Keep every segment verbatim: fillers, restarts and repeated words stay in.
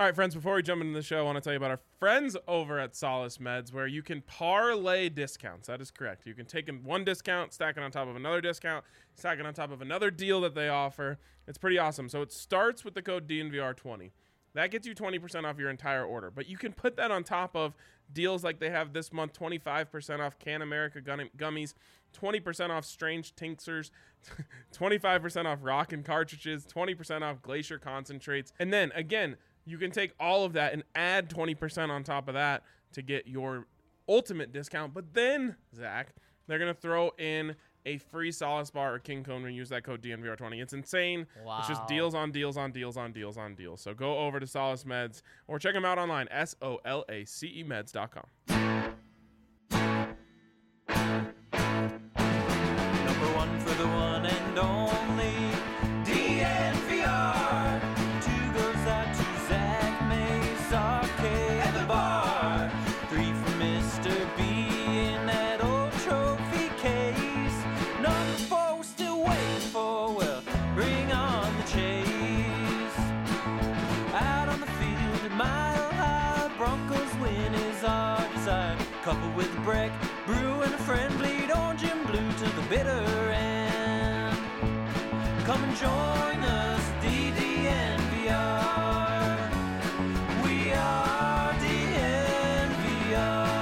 All right, friends, before we jump into the show, I want to tell you about our friends over at Solace Meds, where you can parlay discounts. That is correct. You can take one discount, stack it on top of another discount, stack it on top of another deal that they offer. It's pretty awesome. So it starts with the code D N V R twenty. That gets you twenty percent off your entire order. But you can put that on top of deals like they have this month, twenty-five percent off Can America gummies, twenty percent off Strange Tinctures, twenty-five percent off Rockin' cartridges, twenty percent off Glacier concentrates. And then, again, you can take all of that and add twenty percent on top of that to get your ultimate discount. But then, Zach, they're going to throw in a free Solace bar or King Cone when you use that code D N V R twenty. It's insane. Wow. It's just deals on deals on deals on deals on deals. So go over to Solace Meds or check them out online, S O L A C E meds dot com. Number one for the one and only D N V R. Two goes out to Zach Mace, Arcade, and the bar. Three for Mister B in that old trophy case. Number four we're still waiting for, well, bring on the chase. Out on the field at Mile High, Broncos win is our desire. Coupled with a break, brew and a friend bleed orange and blue to the bitter end. Come and join us, D D N V R. We are D N V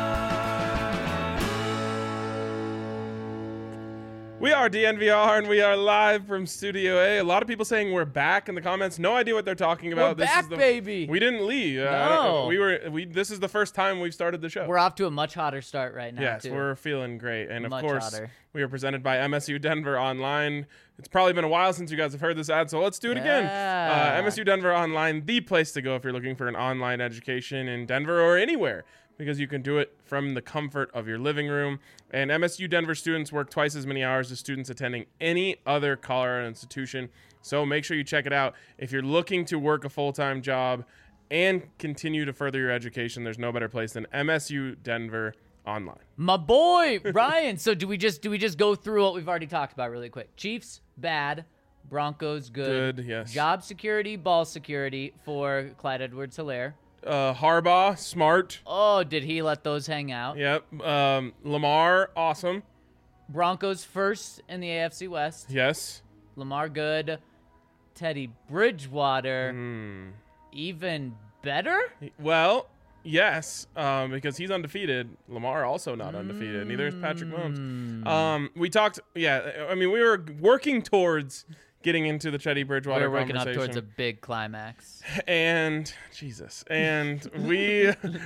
R. We are D N V R, and we are live from Studio A. A lot of people saying we're back in the comments. No idea what they're talking about. We're this back, is the, baby. We didn't leave. Uh, I don't No. know. We were. We. This is the first time we've started the show. We're off to a much hotter start right now, Yes, too. we're feeling great. And of Much course, hotter. we are presented by M S U Denver Online. It's probably been a while since you guys have heard this ad, so let's do it again. Yeah. Uh, M S U Denver Online, the place to go if you're looking for an online education in Denver or anywhere, because you can do it from the comfort of your living room. And M S U Denver students work twice as many hours as students attending any other Colorado institution. So make sure you check it out. If you're looking to work a full-time job and continue to further your education, there's no better place than M S U Denver Online. My boy, Ryan. So do we just do we just go through what we've already talked about really quick? Chiefs, bad. Broncos, good. Good, yes. Job security, ball security for Clyde Edwards-Helaire. Uh, Harbaugh, smart. Oh, did he let those hang out? Yep. Um, Lamar, awesome. Broncos first in the A F C West. Yes. Lamar good. Teddy Bridgewater, Hmm. even better? Well, yes, um, because he's undefeated. Lamar also not undefeated. Neither is Patrick Mahomes. Um, we talked, yeah, I mean, we were working towards getting into the Teddy Bridgewater We're working up conversation. towards a big climax. And, Jesus, and we,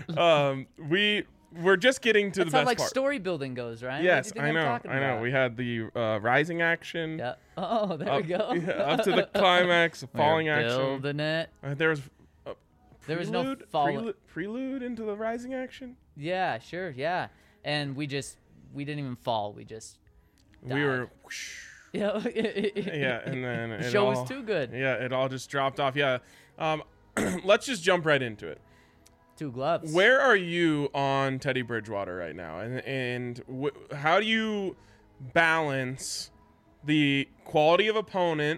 um, we were just getting to That's the how best like part. story building goes, right? Yes, What do you I think I'm know, talking I know. about? We had the uh, rising action. Yeah. Oh, there Up, we go. yeah, up to the climax, falling We're action. building it. Uh, there was a There was no prelude, falling. prelude, prelude into the rising action. Yeah, sure, yeah. And we just we didn't even fall. We just died. We were, whoosh, yeah, yeah, and then the it show all, was too good. Yeah, it all just dropped off. Yeah, um, let's just jump right into it. Two gloves. Where are you on Teddy Bridgewater right now, and and wh- how do you balance the quality of opponent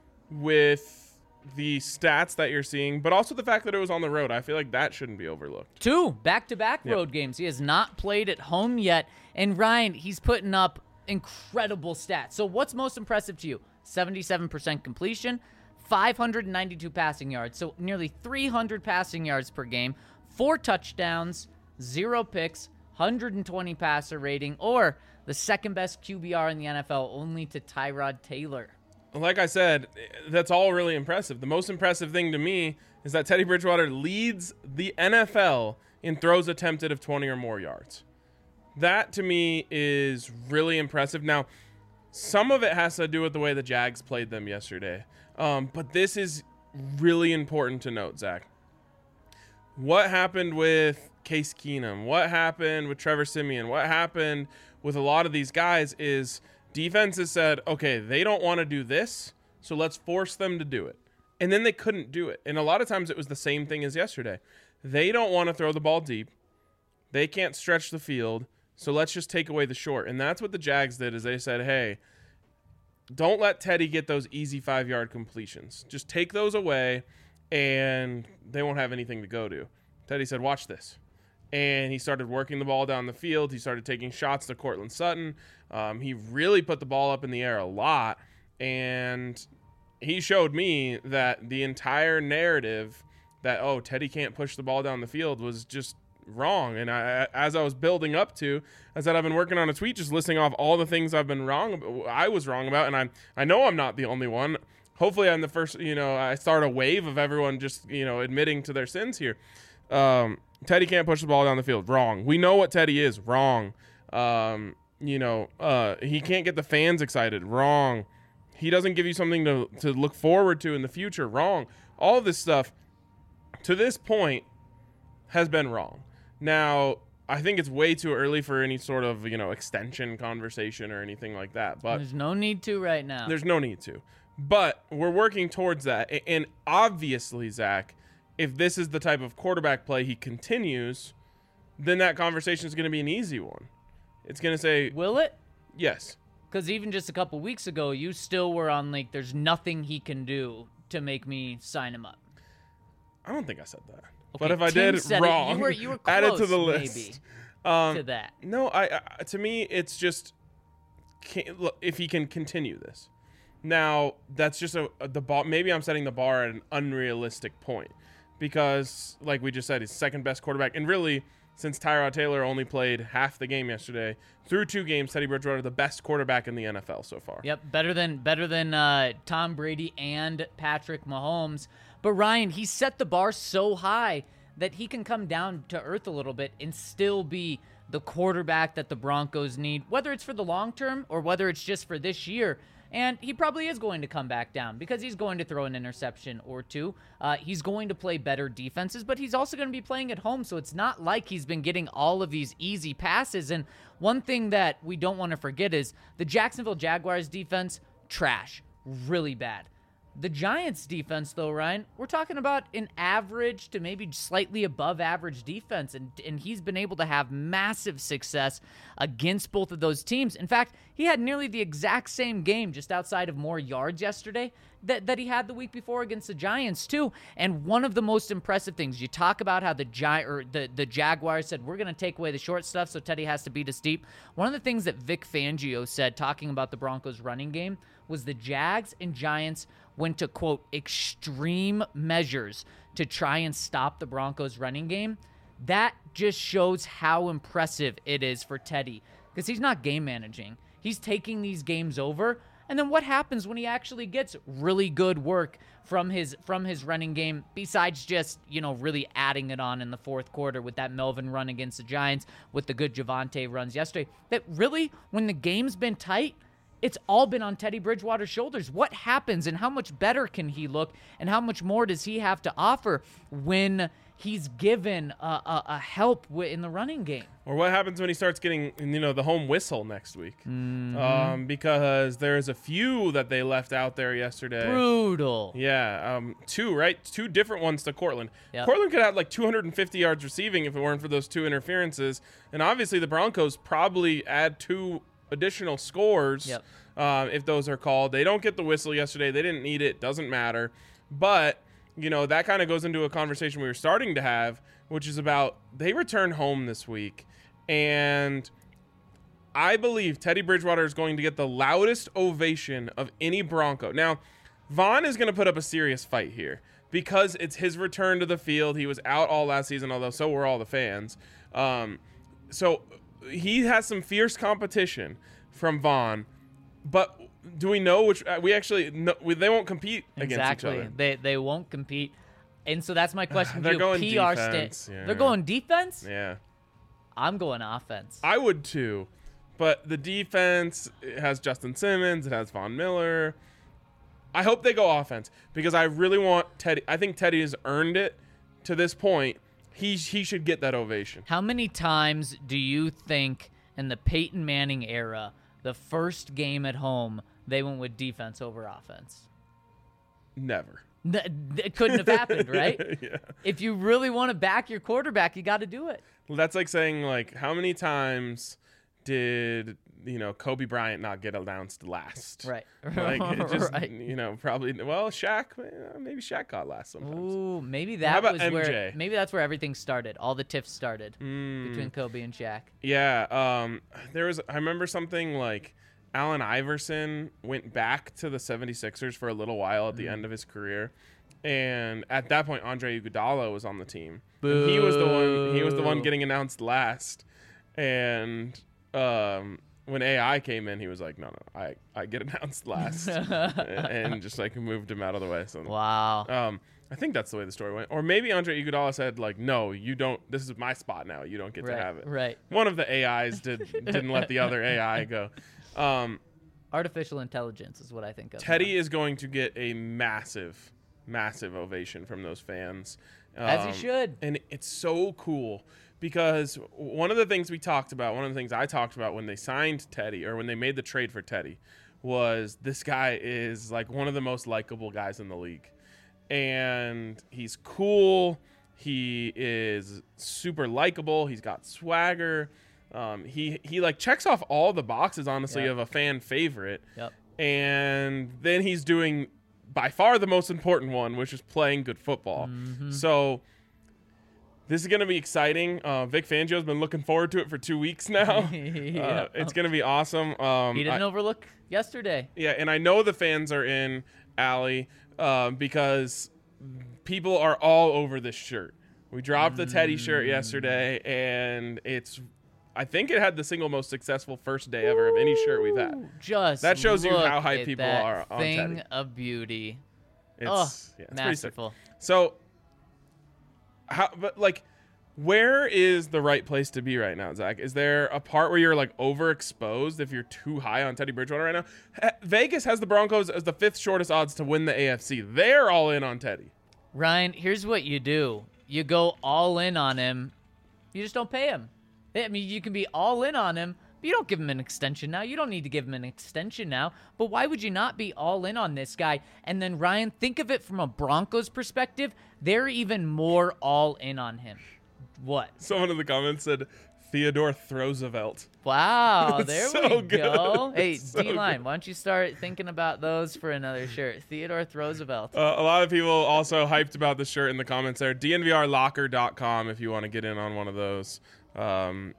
with the stats that you're seeing, but also the fact that it was on the road? I feel like that shouldn't be overlooked. Two back-to-back Yep. road games. He has not played at home yet. And Ryan, he's putting up incredible stats. So what's most impressive to you? seventy-seven percent completion, five hundred ninety-two passing yards. So nearly three hundred passing yards per game, four touchdowns, zero picks, one hundred twenty passer rating, or the second best Q B R in the N F L, only to Tyrod Taylor. Like I said, that's all really impressive. The most impressive thing to me is that Teddy Bridgewater leads the N F L in throws attempted of twenty or more yards. That, to me, is really impressive. Now, some of it has to do with the way the Jags played them yesterday. Um, but this is really important to note, Zach. What happened with Case Keenum? What happened with Trevor Siemian? What happened with a lot of these guys is defenses said, okay, they don't want to do this, so let's force them to do it. And then they couldn't do it. And a lot of times it was the same thing as yesterday. They don't want to throw the ball deep. They can't stretch the field, so let's just take away the short. And that's what the Jags did, is they said, hey, don't let Teddy get those easy five-yard completions. Just take those away and they won't have anything to go to. Teddy said, watch this. And he started working the ball down the field. He started taking shots to Cortland Sutton. Um, he really put the ball up in the air a lot. And he showed me that the entire narrative that, oh, Teddy can't push the ball down the field was just wrong. And I, as I was building up to, I said, I've been working on a tweet just listing off all the things I've been wrong about, I was wrong about. And I I know I'm not the only one. Hopefully I'm the first, you know, I start a wave of everyone just, you know, admitting to their sins here. Um, Teddy can't push the ball down the field. Wrong. We know what Teddy is. Wrong. Um, you know, uh, he can't get the fans excited. Wrong. He doesn't give you something to, to look forward to in the future. Wrong. All of this stuff to this point has been wrong. Now, I think it's way too early for any sort of, you know, extension conversation or anything like that. But There's no need to right now. There's no need to. But we're working towards that. And obviously, Zach, if this is the type of quarterback play he continues, then that conversation is going to be an easy one. It's going to say, Will it? Yes. Because even just a couple weeks ago, you still were on, like, there's nothing he can do to make me sign him up. I don't think I said that. Okay, but if I Tim did, said wrong. It. You were, you were Add it close, to the maybe, list. Um, to that. No, I, I to me, it's just can, look, if he can continue this. Now, that's just a, a the bar. Maybe I'm setting the bar at an unrealistic point because, like we just said, he's second best quarterback, and really, since Tyrod Taylor only played half the game yesterday, through two games, Teddy Bridgewater the best quarterback in the N F L so far. Yep, better than better than uh, Tom Brady and Patrick Mahomes. But Ryan, he set the bar so high that he can come down to earth a little bit and still be the quarterback that the Broncos need, whether it's for the long term or whether it's just for this year. And he probably is going to come back down because he's going to throw an interception or two. Uh, he's going to play better defenses, but he's also going to be playing at home, so it's not like he's been getting all of these easy passes. And one thing that we don't want to forget is the Jacksonville Jaguars defense, trash, really bad. The Giants defense, though, Ryan, we're talking about an average to maybe slightly above average defense, and, and he's been able to have massive success against both of those teams. In fact, he had nearly the exact same game just outside of more yards yesterday that, that he had the week before against the Giants, too. And one of the most impressive things, you talk about how the Gi- or the, the Jaguars said, we're going to take away the short stuff, so Teddy has to beat us deep. One of the things that Vic Fangio said, talking about the Broncos running game, was the Jags and Giants went to, quote, extreme measures to try and stop the Broncos running game. That just shows how impressive it is for Teddy because he's not game managing. He's taking these games over. And then what happens when he actually gets really good work from his from his running game besides just, you know, really adding it on in the fourth quarter with that Melvin run against the Giants, with the good Javonte runs yesterday, that really, when the game's been tight, it's all been on Teddy Bridgewater's shoulders. What happens and how much better can he look and how much more does he have to offer when he's given a, a, a help w- in the running game? Or what happens when he starts getting, you know, the home whistle next week? Mm-hmm. Um, because there's a few that they left out there yesterday. Brutal. Yeah, um, two, right? Two different ones to Cortland. Yep. Cortland could have like two hundred fifty yards receiving if it weren't for those two interferences. And obviously the Broncos probably add two additional scores Yep. uh, if those are called. They don't get the whistle yesterday. They didn't need it. Doesn't matter. But, you know, that kind of goes into a conversation we were starting to have, which is about they return home this week. And I believe Teddy Bridgewater is going to get the loudest ovation of any Bronco. Now, Vaughn is going to put up a serious fight here because it's his return to the field. He was out all last season, although so were all the fans. Um, so he has some fierce competition from Vaughn, but do we know which uh, we actually know, we, they won't compete Exactly. against each other. They they won't compete. And so that's my question. They're to you. going P R defense, sta- yeah. They're going defense? Yeah. I'm going offense. I would too, but the defense it has Justin Simmons, it has Von Miller. I hope they go offense because I really want Teddy. I think Teddy has earned it to this point. He he should get that ovation. How many times do you think in the Peyton Manning era, the first game at home, they went with defense over offense? Never. N- It couldn't have happened, right? Yeah. If you really want to back your quarterback, you got to do it. Well, that's like saying, like, how many times did you know, Kobe Bryant not get announced last. Right. Like, it just, right. you know, probably, well, Shaq, eh, maybe Shaq got last sometimes. Ooh, maybe How that about was M J? where maybe that's where everything started. All the tiffs started Mm, between Kobe and Shaq. yeah. Um, there was, I remember something like Allen Iverson went back to the seventy-sixers for a little while at the Mm. end of his career. And at that point, Andre Iguodala was on the team. And he was the one, he was the one Boo. getting announced last. And, um, when A I came in, he was like, no, no, I, I get announced last. And just like moved him out of the way. So, Wow. um, I think that's the way the story went. Or maybe Andre Iguodala said like, no, you don't, this is my spot now. You don't get right. to have it. Right. One of the A Is did, didn't let the other A I go. Um, Artificial intelligence is what I think of. Teddy is going to get a massive, massive ovation from those fans. As he Um, should. And it's so cool because one of the things we talked about, one of the things I talked about when they signed Teddy or when they made the trade for Teddy was this guy is like one of the most likable guys in the league. And he's cool. He is super likable. He's got swagger. Um, he, he like checks off all the boxes, honestly, Yep. of a fan favorite. Yep. And then he's doing by far the most important one, which is playing good football. Mhm. So this is going to be exciting. Uh, Vic Fangio's been looking forward to it for two weeks now. Yeah. uh, it's going to be awesome. Um, He didn't I- overlook yesterday. yeah, and I know the fans are in, Allie, um, because people are all over this shirt. We dropped the Teddy shirt Mm. yesterday, and it's, I think it had the single most successful first day ever of any shirt we've had. Ooh, Just That shows you look how hyped at people that are on thing Teddy. of beauty. It's, Oh, yeah, it's pretty sick. masterful. So, how, but like, where is the right place to be right now, Zach? Is there a part where you're like overexposed if you're too high on Teddy Bridgewater right now? Ha- Vegas has the Broncos as the fifth shortest odds to win the A F C. They're all in on Teddy. Ryan, here's what you do. You go all in on him. You just don't pay him. I mean, you can be all in on him, but you don't give him an extension now. You don't need to give him an extension now. But why would you not be all in on this guy? And then, Ryan, think of it from a Broncos perspective. They're even more all in on him. What? Someone in the comments said Theodore Roosevelt. Wow, It's there so we good. go. Hey, It's so D-Line, good. why don't you start thinking about those for another shirt? Theodore Roosevelt. Uh, a lot of people also hyped about the shirt in the comments there. D N V R locker dot com if you want to get in on one of those. Um,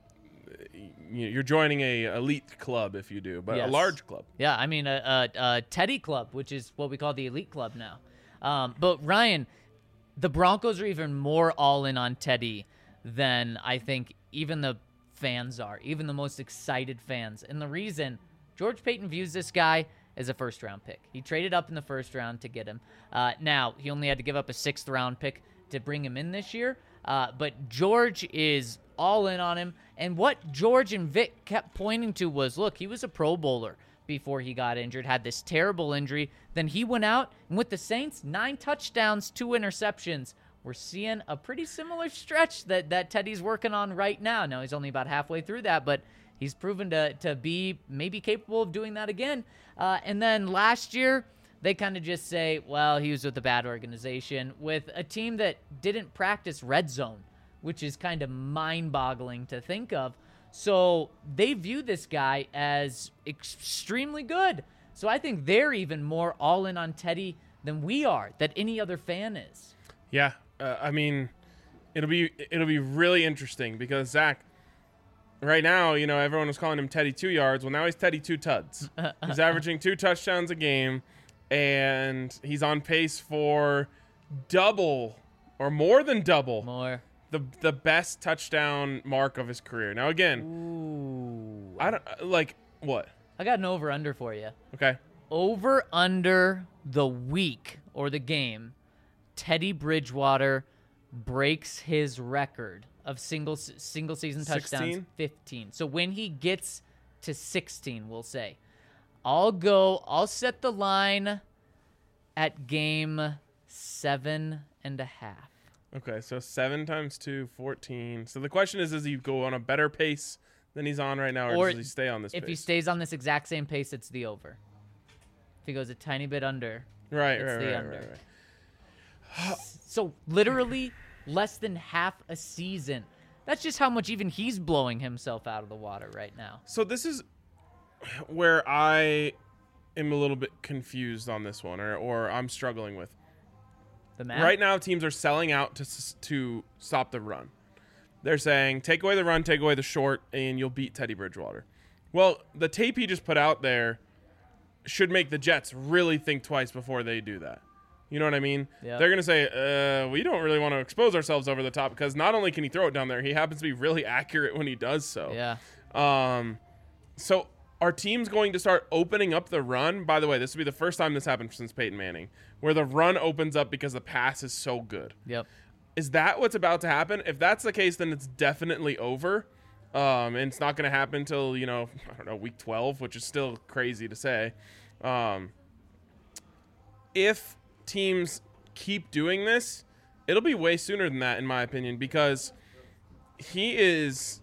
you- you're joining a elite club if you do, but Yes. a large club. Yeah, I mean, a, a, a Teddy Club, which is what we call the Elite Club now. Um, but, Ryan, the Broncos are even more all in on Teddy than I think even the fans are, even the most excited fans. And the reason, George Payton views this guy as a first-round pick. He traded up in the first round to get him. Uh, now, he only had to give up a sixth-round pick to bring him in this year. Uh, but George is all in on him. And what George and Vic kept pointing to was, look, he was a Pro Bowler before he got injured, had this terrible injury. Then he went out, and with the Saints, nine touchdowns, two interceptions. We're seeing a pretty similar stretch that, that Teddy's working on right now. Now, he's only about halfway through that, but he's proven to, to be maybe capable of doing that again. Uh, and then last year, they kind of just say, well, he was with a bad organization, with a team that didn't practice red zone, which is kind of mind-boggling to think of. So they view this guy as extremely good. So I think they're even more all in on Teddy than we are, that any other fan is. Yeah, uh, I mean, it'll be it'll be really interesting because Zach, right now, you know, everyone was calling him Teddy two yards. Well, now he's Teddy two tuds. He's averaging two touchdowns a game, and he's on pace for double or more than double More. the the best touchdown mark of his career. Now, again, Ooh. I don't uh, like what. I got an over-under for you. Okay, Over under the week or the game, Teddy Bridgewater breaks his record of single single season touchdowns, sixteen? fifteen. So when he gets to sixteen, we'll say, I'll go, I'll set the line at game seven and a half. okay. So seven times two, fourteen. So the question is, does he go on a better pace than he's on right now, or, Or does he stay on this If he pace? stays on this exact same pace, it's the over. If he goes a tiny bit under, right, it's right, the right, under. right, right. So literally less than half a season. That's just how much even he's blowing himself out of the water right now. So this is where I am a little bit confused on this one, or, or I'm struggling with. The math? Right now, teams are selling out to s- to stop the run. They're saying, take away the run, take away the short, and you'll beat Teddy Bridgewater. Well, the tape he just put out there should make the Jets really think twice before they do that. You know what I mean? Yep. They're going to say, uh, we don't really want to expose ourselves over the top, because not only can he throw it down there, he happens to be really accurate when he does so. Yeah. Um, so are teams going to start opening up the run? By the way, this will be the first time this happened since Peyton Manning, where the run opens up because the pass is so good. Yep. Is that what's about to happen? If that's the case, then it's definitely over. Um, and it's not going to happen until, you know, I don't know, week twelve, which is still crazy to say. Um, if teams keep doing this, it'll be way sooner than that, in my opinion, because he is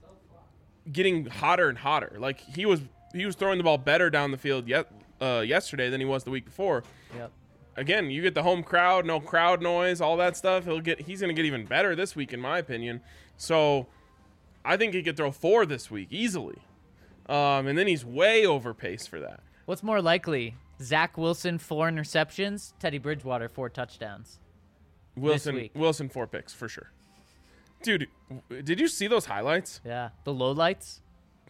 getting hotter and hotter. Like, he was he was throwing the ball better down the field yet, uh, yesterday than he was the week before. Yep. Again, you get the home crowd, no crowd noise, all that stuff. He'll get he's going to get even better this week, in my opinion. So I think he could throw four this week easily. Um, and then he's way over pace for that. What's more likely? Zach Wilson, four interceptions. Teddy Bridgewater, four touchdowns. Wilson week. Wilson four picks for sure. Dude, did you see those highlights? Yeah. The lowlights?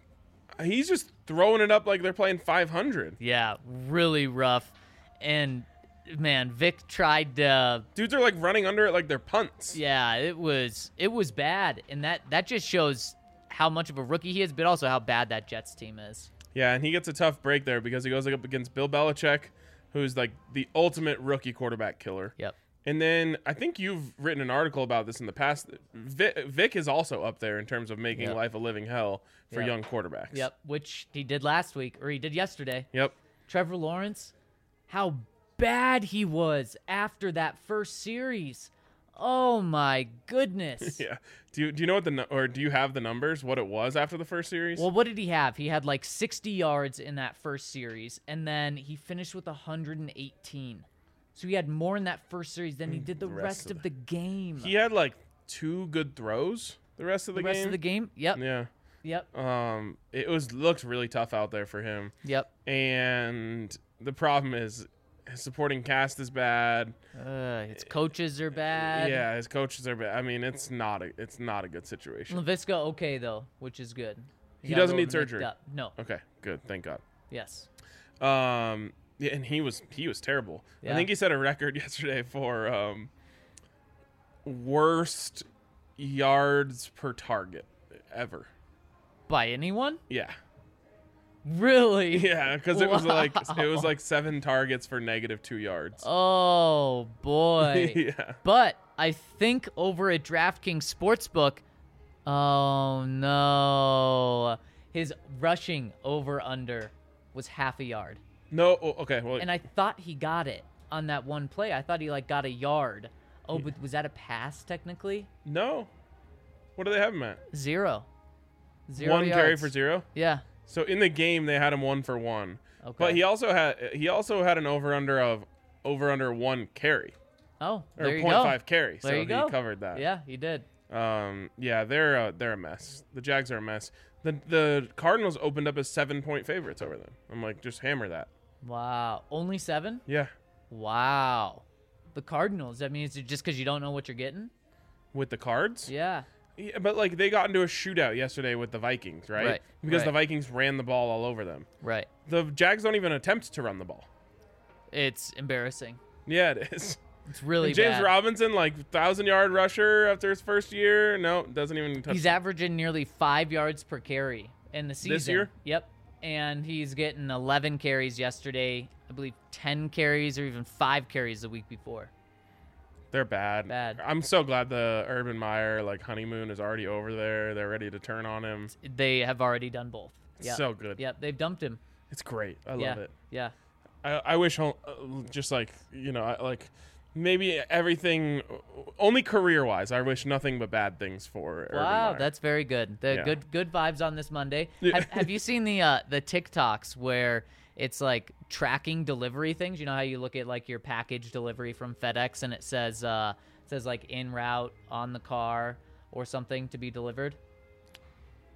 He's just throwing it up like they're playing five hundred. Yeah. Really rough. And, man, Vic tried to... Dudes are like running under it like they're punts. Yeah, it was it was bad. And that, that just shows how much of a rookie he is, but also how bad that Jets team is. Yeah, and he gets a tough break there because he goes up against Bill Belichick, who's like the ultimate rookie quarterback killer. Yep. And then I think you've written an article about this in the past. Vic, Vic is also up there in terms of making Yep. life a living hell for Yep. young quarterbacks. Yep, which he did last week, or he did yesterday. Yep. Trevor Lawrence, how bad he was after that first series. Oh, my goodness. Yeah. Do you do you know what the nu- or do you have the numbers? What it was after the first series? Well, what did he have? He had like sixty yards in that first series, and then he finished with one hundred eighteen. So he had more in that first series than he did the, The rest, rest of of the game. he had like two good throws the rest of the, the rest game. of the game? Yep. Yeah. Yep. Um. It was looked really tough out there for him. Yep. And the problem is his supporting cast is bad. Uh, his coaches are bad. Yeah, his coaches are bad. I mean, it's not a it's not a good situation. LaVisca, okay, though, which is good. He got a doesn't little need surgery. nicked up. No. Okay, good. Thank God. Yes. Um, yeah, and he was he was terrible. I Yeah. think he set a record yesterday for um worst yards per target ever. By anyone? Yeah, Really? yeah, because it was like it was Wow. like seven targets for negative two yards. Oh, boy. Yeah. But I think over at DraftKings Sportsbook, oh, no. His rushing over-under was half a yard. No. oh, Okay. Well, And I thought he got it on that one play. I thought he, like, got a yard. Oh, but was that a pass, technically? no. What do they have him at? Zero. Zero One carry yards. for zero. Yeah. So in the game they had him one for one. Okay. But he also had he also had an over under of over under one carry Oh, or there you point go. five carry. There so you he go. covered that. Yeah, he did. Um. Yeah. They're uh, they're a mess. The Jags are a mess. The the Cardinals opened up as seven point favorites over them. I'm like, just hammer that. Wow. Only seven? Yeah. Wow. The Cardinals. That means just because you don't know what you're getting? With the Cards. Yeah. Yeah, but like they got into a shootout yesterday with the Vikings, right? Right, Because the right. Vikings ran the ball all over them. Right. The Jags don't even attempt to run the ball. It's embarrassing. Yeah, it is. It's really And James bad. Robinson, like thousand yard rusher after his first year. No, doesn't even touch. He's averaging nearly five yards per carry in the season. year? Yep. And he's getting eleven carries yesterday. I believe ten carries or even five carries the week before. They're bad. Bad. I'm so glad the Urban Meyer like honeymoon is already over there. They're ready to turn on him. They have already done both. It's Yep. so good. Yep. They've dumped him. It's great. I yeah. love it. Yeah. I, I wish home, uh, just like you know, I, like maybe everything only career wise. I wish nothing but bad things for. Urban Wow, Meyer. that's very good. The Yeah. good good vibes on this Monday. Yeah. Have, have you seen the uh, the TikToks where it's like tracking delivery things? You know how you look at like your package delivery from FedEx and it says uh, it says like en route on the car or something to be delivered.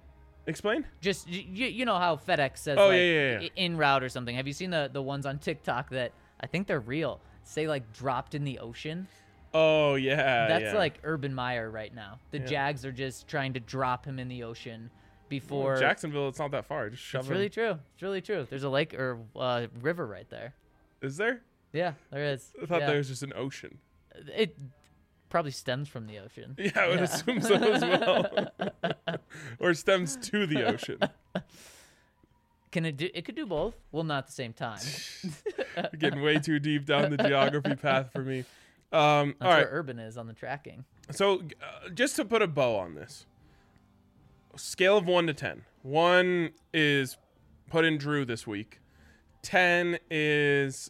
Explain. Just y- y- you know how FedEx says Oh, like yeah, yeah, yeah. i- en route or something. Have you seen the the ones on TikTok that I think they're real? Say like dropped in the ocean. Oh yeah. That's yeah. like Urban Meyer right now. The Yeah. Jags are just trying to drop him in the ocean before. Well, Jacksonville. It's not that far. Just shove It's him. really true. It's really true. There's a lake or uh, river right there. Is there? Yeah, there is. I thought yeah. there was just an ocean. It probably stems from the ocean. Yeah, I would Yeah. assume so as well. Or stems to the ocean. Can it do? It could do both. Well, not at the same time. You're getting way too deep down the geography path for me. Um, That's all right. where urban is on the tracking. So, uh, just to put a bow on this, scale of one to ten. One is put in Drew this week. Ten is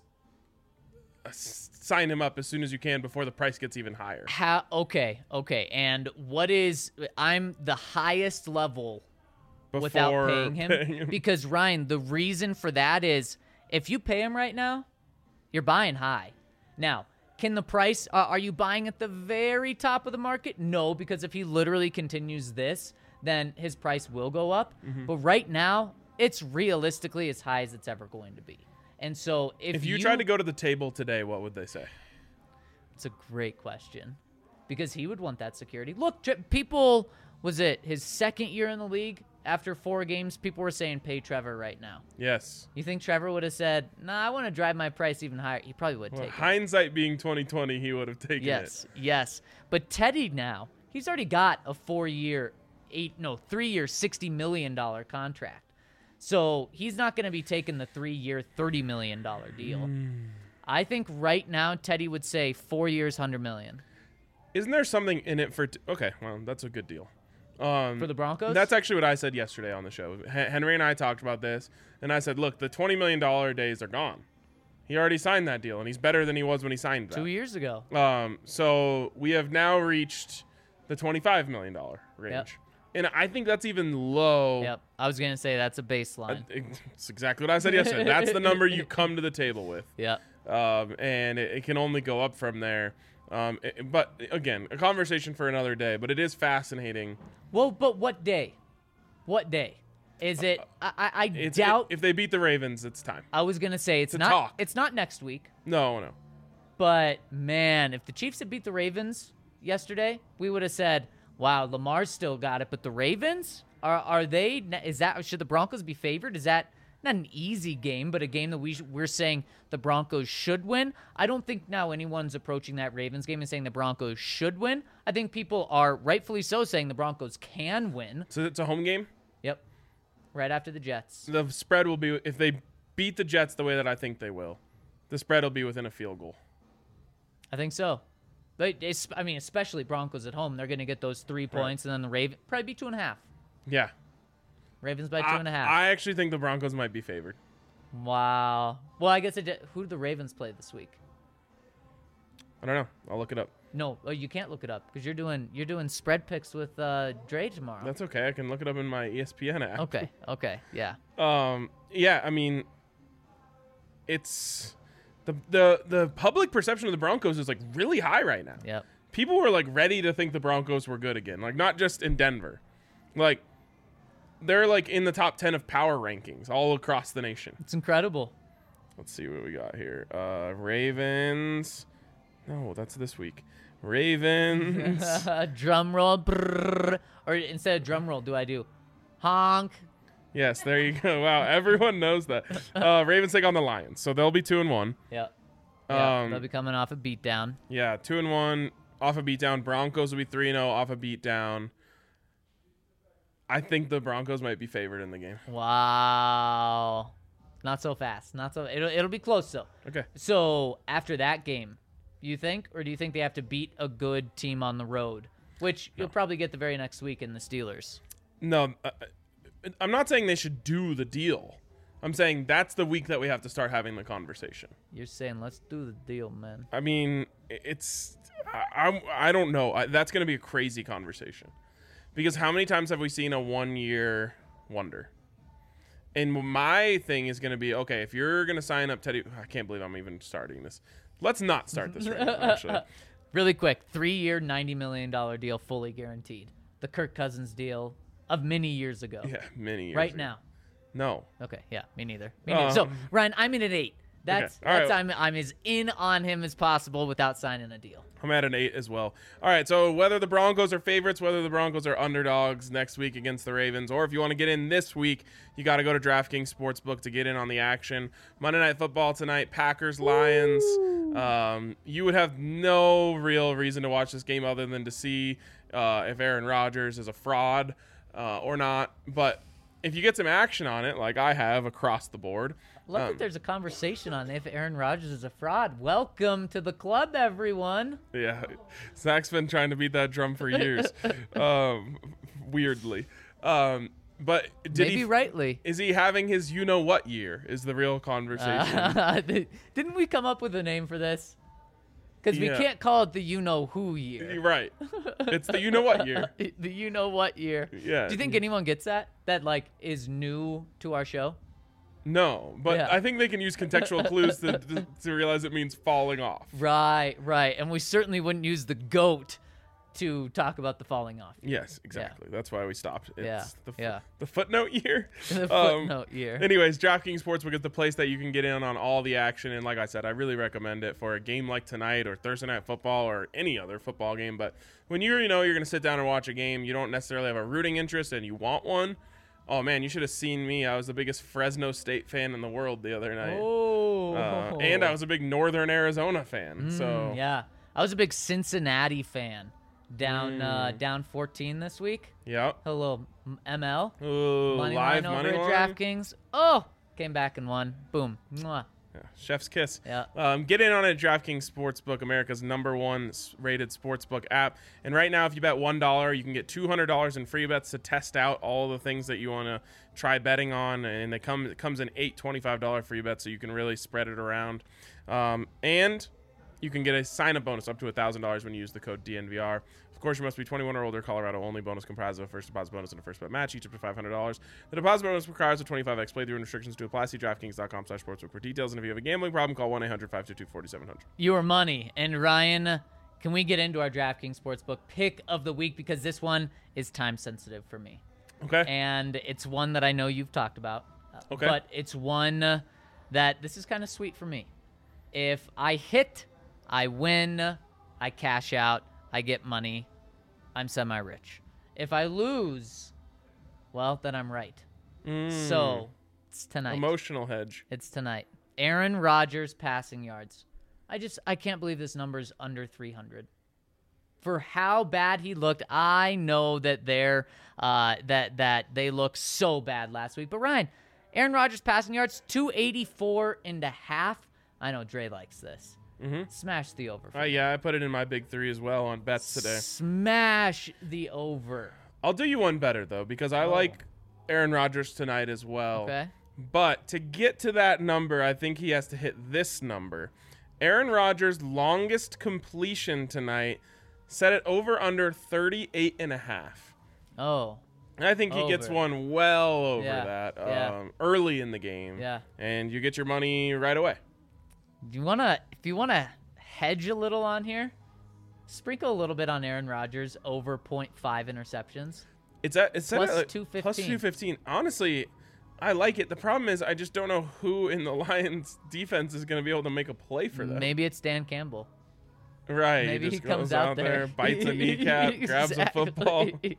uh, s- sign him up as soon as you can before the price gets even higher. How? Okay, okay. And what is? I'm the highest level without Before paying him, paying him. because Ryan, the reason for that is if you pay him right now, you're buying high. Now, can the price? Uh, are you buying at the very top of the market? No, because if he literally continues this, then his price will go up. Mm-hmm. But right now, it's realistically as high as it's ever going to be. And so if, If you, tried to go to the table today, what would they say? it's a great question, because he would want that security. Look, Tre- people, was it his second year in the league? After four games, people were saying pay Trevor right now. Yes. You think Trevor would have said, "Nah, I want to drive my price even higher"? He probably would Well, take it. hindsight being twenty twenty, he would have taken Yes, it. yes. But Teddy now, he's already got a four-year, eight no, three-year, sixty million dollar contract. So he's not going to be taking the three-year, thirty million dollar deal. Hmm. I think right now Teddy would say four years, hundred million Isn't there something in it for? T- okay, well, that's a good deal. Um, for the Broncos. That's actually what I said yesterday on the show. H- Henry and I talked about this, and I said, look, the twenty million dollars days are gone. He already signed that deal, and he's better than he was when he signed that. two years ago. Um, so we have now reached the twenty-five million dollars range. Yep. And I think that's even low. Yep, I was gonna say that's a Uh, baseline. It's exactly what I said yesterday. That's the number you come to the table with. Yep. Um, and it, it can only go up from there. Um, it- but again, a conversation for another day. But it is fascinating. Well, but what day? What day? Is it? I, I, I It's, doubt. if they beat the Ravens, it's time. I was gonna say it's a not. talk. It's not next week. No, no. But man, if the Chiefs had beat the Ravens yesterday, we would have said, "Wow, Lamar's still got it." But the Ravens are are they? Is that should the Broncos be favored? Is that not an easy game, but a game that we sh- we're saying the Broncos should win? I don't think now anyone's approaching that Ravens game and saying the Broncos should win. I think people are rightfully so saying the Broncos can win. So it's a home game. Yep, right after the Jets. The spread will be if they beat the Jets the way that I think they will. The spread will be within a field goal. I think so. But it's, I mean, especially Broncos at home, they're going to get those three points, and then the Raven probably be two and a half. Yeah. Ravens by two I, and a half. I actually think the Broncos might be favored. Wow. Well, I guess it did. Who did the Ravens play this week? I don't know. I'll look it up. No, oh, you can't look it up because you're doing you're doing spread picks with uh, Dre tomorrow. That's okay. I can look it up in my E S P N app. okay. Okay. Yeah. Um. Yeah. I mean, it's the the the public perception of the Broncos is like really high right now. Yep. People were like ready to think the Broncos were good again. Like not just in Denver, like they're like in the top ten of power rankings all across the nation. It's incredible. Let's see what we got here. Uh, Ravens. No, that's this week. Ravens. Drum roll. Brrr. Or instead of drum roll, do I do honk? Yes, there you go. Wow, everyone knows that. Uh, Ravens take on the Lions, so they'll be two and one. Yep. Yeah, Um, they'll be coming off a beatdown. Yeah, two and one off a beatdown. Broncos will be three and zero off a beatdown. I think the Broncos might be favored in the game. Wow. Not so fast. Not so. It'll it'll be close though. Okay. So after that game, you think, or do you think they have to beat a good team on the road, which you'll probably get the very next week in the Steelers? No, uh, I'm not saying they should do the deal. I'm saying that's the week that we have to start having the conversation. You're saying let's do the deal, man. I mean, it's I I'm, I don't know. I, that's going to be a crazy conversation because how many times have we seen a one-year wonder? And my thing is going to be, okay, if you're going to sign up Teddy, I can't believe I'm even starting this. Let's not start this right now, actually. Really quick, three-year, ninety million dollar deal, fully guaranteed. The Kirk Cousins deal, of many years ago. Yeah, many years Right ago. now. No. Okay, yeah, me neither. Me neither. so Um, Ryan, I'm in at eight. That's Okay, all that's right. I'm I'm as in on him as possible without signing a deal. I'm at an eight as well. All right, so whether the Broncos are favorites, whether the Broncos are underdogs next week against the Ravens, or if you want to get in this week, you got to go to DraftKings Sportsbook to get in on the action. Monday Night Football tonight, Packers, Lions. Um, you would have no real reason to watch this game other than to see uh, if Aaron Rodgers is a fraud uh, or not. But if you get some action on it, like I have across the board, Love um, that there's a conversation on if Aaron Rodgers is a fraud. Welcome to the club, everyone. yeah, Zach's been trying to beat that drum for years, um, weirdly. Um, but did Maybe he? rightly. Is he having his you know what year? Is the real conversation? Uh, didn't we come up with a name for this? Because Yeah. we can't call it the you know who year. You're right. It's the you know what year. The you know what year. Yeah. Do you think anyone gets that? That like is new to our show? No, but Yeah. I think they can use contextual clues to, to to realize it means falling off. Right, right. And we certainly wouldn't use the goat to talk about the falling off. Yes, exactly. That's why we stopped. It's Yeah, the, f- yeah. the footnote year. The Um, footnote year. Anyways, DraftKings Sportsbook is the place that you can get in on all the action. And like I said, I really recommend it for a game like tonight or Thursday Night Football or any other football game. But when you're, you know, you're going to sit down and watch a game, you don't necessarily have a rooting interest and you want one. Oh, man, you should have seen me. I was the biggest Fresno State fan in the world the other night. Oh. Uh, and I was a big Northern Arizona fan. so Mm, yeah. I was a big Cincinnati fan. Down uh, Mm. down fourteen this week. yeah. Hello, M- M L. Ooh, Money live line over money at line. DraftKings. Oh, came back and won. Boom. Mwah. Yeah, chef's kiss. Yeah. Um, get in on it, DraftKings Sportsbook, America's number one s- rated sportsbook app. And right now, if you bet one dollar, you can get two hundred dollars in free bets to test out all the things that you want to try betting on. And it, come, it comes in eight twenty-five dollars free bets, so you can really spread it around. Um, and you can get a sign-up bonus up to one thousand dollars when you use the code D N V R. Of course, you must be twenty-one or older. Colorado only. Bonus comprised of a first deposit bonus and a first bet match, each up to five hundred dollars. The deposit bonus requires a twenty-five x playthrough and restrictions to apply. See DraftKings.com slash sportsbook for details. And if you have a gambling problem, call one eight hundred five two two four seven zero zero. Your money. And Ryan, can we get into our DraftKings Sportsbook pick of the week? Because this one is time sensitive for me. Okay. And it's one that I know you've talked about. uh, Okay. But it's one that this is kind of sweet for me. If I hit, I win, I cash out, I get money, I'm semi-rich. If I lose, well, then I'm right. Mm. So it's tonight. Emotional hedge. It's tonight. Aaron Rodgers passing yards. I just I can't believe this number's under three hundred. For how bad he looked, I know that they're uh, that that they look so bad last week. But Ryan, Aaron Rodgers passing yards two eighty-four and a half. I know Dre likes this. Mm-hmm. Smash the over. for Uh, me. yeah, I put it in my big three as well on bets today. Smash the over. I'll do you one better, though, because I Oh. like Aaron Rodgers tonight as well. Okay. But to get to that number, I think he has to hit this number. Aaron Rodgers' longest completion tonight set it over under thirty-eight and a half. Oh. And I think he gets Over. one well over Yeah, that yeah. um, early in the game. Yeah. And you get your money right away. Do you wanna if you wanna hedge a little on here, sprinkle a little bit on Aaron Rodgers over point five interceptions. It's at it's set Plus at, like, two fifteen. Plus two fifteen. Honestly, I like it. The problem is I just don't know who in the Lions defense is going to be able to make a play for them. Maybe it's Dan Campbell. Right. Maybe he he just comes goes out there, bites a kneecap, grabs a football. Exactly.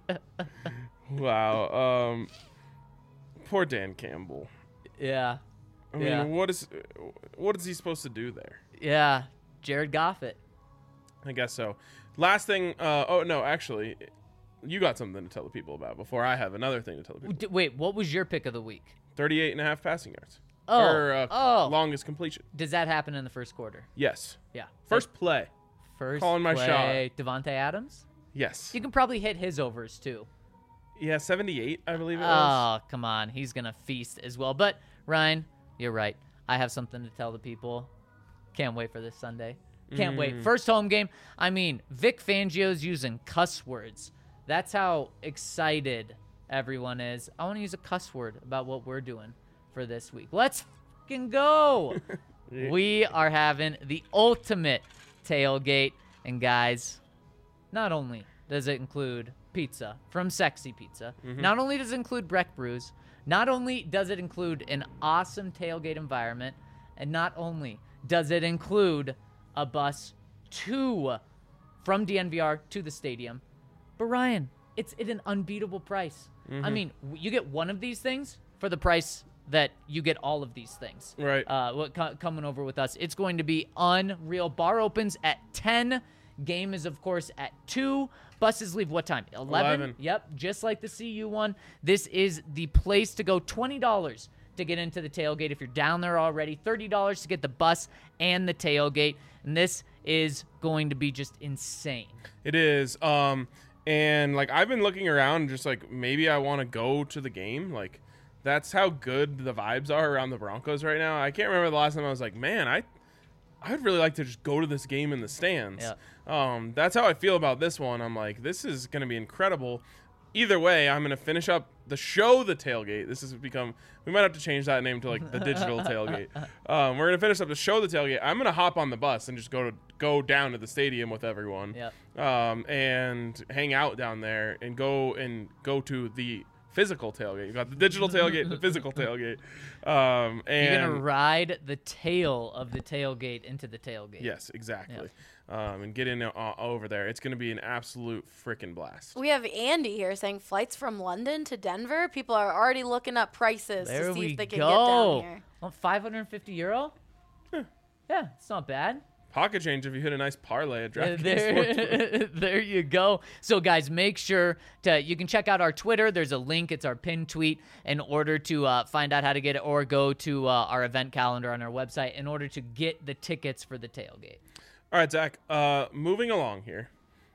Wow. Um, poor Dan Campbell. yeah, I mean, Yeah. what is what is he supposed to do there? yeah. Jared Goffett. I guess so. Last thing. Uh, oh no, actually, you got something to tell the people about before I have another thing to tell the people. D- wait, what was your pick of the week? thirty-eight and a half passing yards. Oh, Or uh, oh. longest completion. Does that happen in the first quarter? Yes. Yeah. First play. First calling my play, Devontae Adams. Yes. You can probably hit his overs too. Yeah, seventy-eight, I believe it was. Oh, come on. He's going to feast as well. But, Ryan, you're right. I have something to tell the people. Can't wait for this Sunday. Can't wait. First home game. I mean, Vic Fangio's using cuss words. That's how excited everyone is. I want to use a cuss word about what we're doing for this week. Let's fucking go. We are having the ultimate tailgate. And, guys, not only does it include pizza from Sexy Pizza. Mm-hmm. Not only does it include Breck Brews, not only does it include an awesome tailgate environment, and not only does it include a bus to from D N V R to the stadium, but Ryan, it's at an unbeatable price. Mm-hmm. I mean, w- you get one of these things for the price that you get all of these things. Right. Uh, what co- coming over with us, it's going to be unreal. Bar opens at ten. Game is, of course, at two. Buses leave what time? eleven? eleven. Yep, just like the C U one. This is the place to go. twenty dollars to get into the tailgate if you're down there already. thirty dollars to get the bus and the tailgate. And this is going to be just insane. It is. Um, and like I've been looking around, just like maybe I want to go to the game. Like that's how good the vibes are around the Broncos right now. I can't remember the last time I was like, man, I, I'd really like to just go to this game in the stands. Yeah. Um, that's how I feel about this one. I'm like, this is going to be incredible. Either way, I'm going to finish up the show, the tailgate. This has become, we might have to change that name to like the digital tailgate. Um, we're going to finish up the show, the tailgate. I'm going to hop on the bus and just go to go down to the stadium with everyone. Yep. Um, and hang out down there and go and go to the physical tailgate. You got the digital tailgate, the physical tailgate. Um, and You're going to ride the tail of the tailgate into the tailgate. yes, exactly. Um, and get in uh, over there. It's going to be an absolute freaking blast. We have Andy here saying flights from London to Denver. People are already looking up prices There to see we if they can go. get down here. Well, five hundred fifty euro? Yeah, it's not bad. Pocket change if you hit a nice parlay at Uh, DraftKings Sportsbook. There, there you go. So, guys, make sure to you can check out our Twitter. There's a link. It's our pinned tweet in order to uh, find out how to get it, or go to uh, our event calendar on our website in order to get the tickets for the tailgate. All right, Zach, uh, moving along here.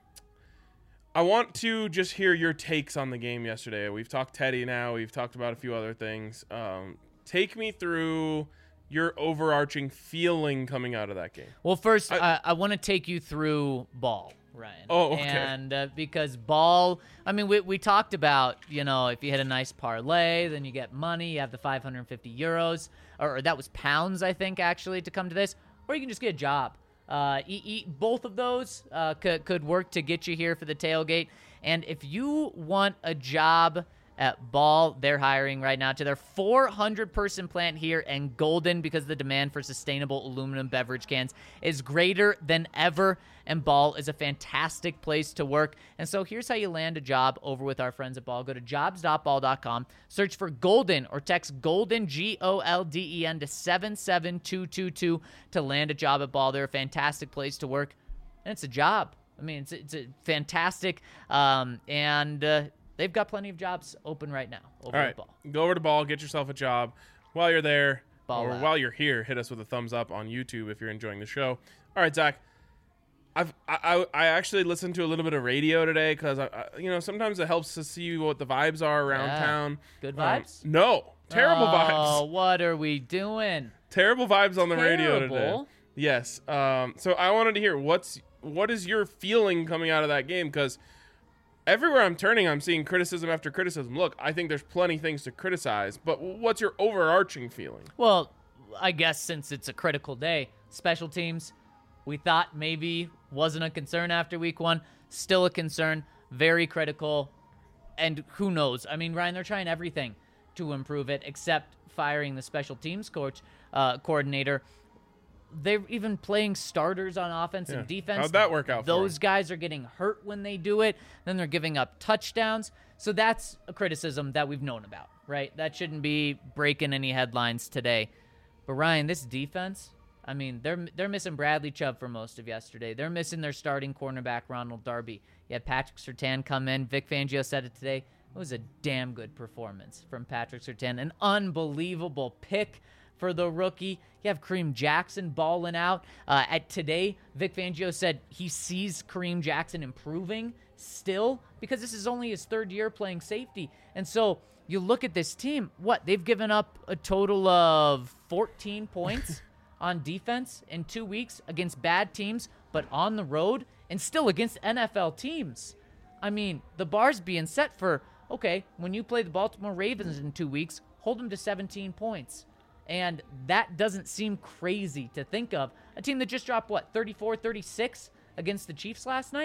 I want to just hear your takes on the game yesterday. We've talked Teddy now. We've talked about a few other things. Um, take me through your overarching feeling coming out of that game. Well, first, I- I, I want to take you through Ball, Ryan. Oh, okay. And uh, because Ball, I mean, we, we talked about, you know, if you hit a nice parlay, then you get money. You have the five hundred fifty euros, or, or that was pounds, I think, actually, to come to this. Or you can just get a job. Uh, e- e- both of those uh, could, could work to get you here for the tailgate. And if you want a job at Ball, they're hiring right now to their four hundred person plant here in Golden, because the demand for sustainable aluminum beverage cans is greater than ever, and Ball is a fantastic place to work. And so here's how you land a job over with our friends at Ball. Go to jobs dot ball dot com, search for Golden, or text Golden, G O L D E N, to seven seven two two two to land a job at Ball. They're a fantastic place to work, and it's a job. I mean, it's, it's a fantastic, um, and uh, they've got plenty of jobs open right now over All at right, Ball. go over to Ball, get yourself a job. While you're there, Ball or out. while you're here, hit us with a thumbs up on YouTube if you're enjoying the show. All right, Zach. I've, I I actually listened to a little bit of radio today because I, I you know sometimes it helps to see what the vibes are around Yeah. town. Good Um, vibes? no, terrible Oh, vibes. what are we doing? Terrible vibes on the radio today. Terrible? Yes. Um. So I wanted to hear what's what is your feeling coming out of that game, because everywhere I'm turning, I'm seeing criticism after criticism. Look, I think there's plenty things to criticize, but what's your overarching feeling? Well, I guess since it's a critical day, special teams, we thought maybe wasn't a concern after week one. Still a concern, very critical. And who knows? I mean, Ryan, they're trying everything to improve it, except firing the special teams coach, uh, coordinator. They're even playing starters on offense Yeah. and defense. How'd that work out for Those them? guys are getting hurt when they do it. Then they're giving up touchdowns. So that's a criticism that we've known about, right? That shouldn't be breaking any headlines today. But Ryan, this defense, I mean, they're they're missing Bradley Chubb for most of yesterday. They're missing their starting cornerback, Ronald Darby. You had Patrick Surtain come in. Vic Fangio said it today. It was a damn good performance from Patrick Surtain. An unbelievable pick for the rookie. You have Kareem Jackson balling out. Uh, at today, Vic Fangio said he sees Kareem Jackson improving still, because this is only his third year playing safety. And so you look at this team, what? They've given up a total of fourteen points on defense in two weeks against bad teams, but on the road and still against N F L teams. I mean, the bar's being set for, okay, when you play the Baltimore Ravens in two weeks, hold them to seventeen points. And that doesn't seem crazy to think of. A team that just dropped, what, thirty-four thirty-six against the Chiefs last night?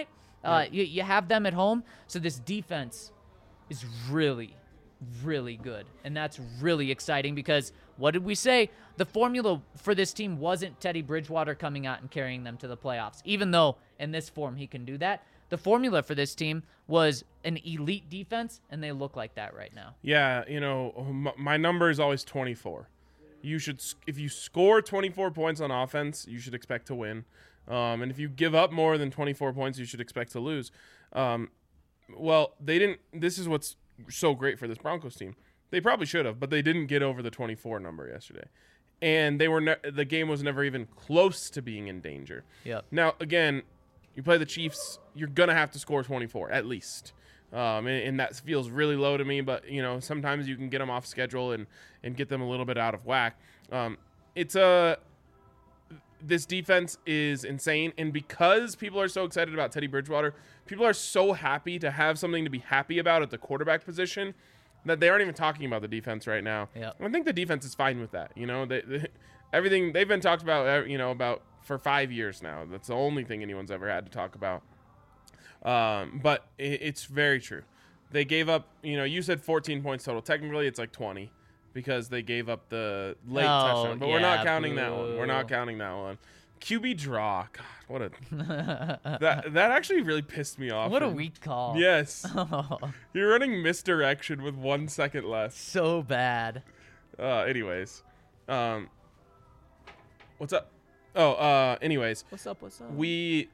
Uh, you, you have them at home, so this defense is really, really good. And that's really exciting because what did we say? The formula for this team wasn't Teddy Bridgewater coming out and carrying them to the playoffs, even though in this form he can do that. The formula for this team was an elite defense, and they look like that right now. Yeah, you know, m- my number is always twenty-four. You should, if you score twenty-four points on offense, you should expect to win. Um, and if you give up more than twenty-four points, you should expect to lose. Um, well, they didn't. This is what's so great for this Broncos team. They probably should have, but they didn't get over the twenty-four number yesterday, and they were ne- the game was never even close to being in danger. Yep. Now, again, you play the Chiefs, you're gonna have to score twenty-four at least. Um, and, and that feels really low to me, but you know, sometimes you can get them off schedule and, and get them a little bit out of whack. Um, it's a, this defense is insane. And because people are so excited about Teddy Bridgewater, people are so happy to have something to be happy about at the quarterback position that they aren't even talking about the defense right now. Yep. I think the defense is fine with that. You know, they, they, everything they've been talked about, you know, about for five years now. That's the only thing anyone's ever had to talk about. Um, but it, it's very true. They gave up, you know, you said fourteen points total. Technically, it's like twenty because they gave up the late Oh, touchdown. But we're not yeah, counting that one. We're not boo. counting that one. Q B draw. God, what a that that actually really pissed me off. What a And- weak call. Yes, Oh, you're running misdirection with one second left. so bad. Uh, anyways, um, what's up? Oh, uh, anyways, What's up? What's up? we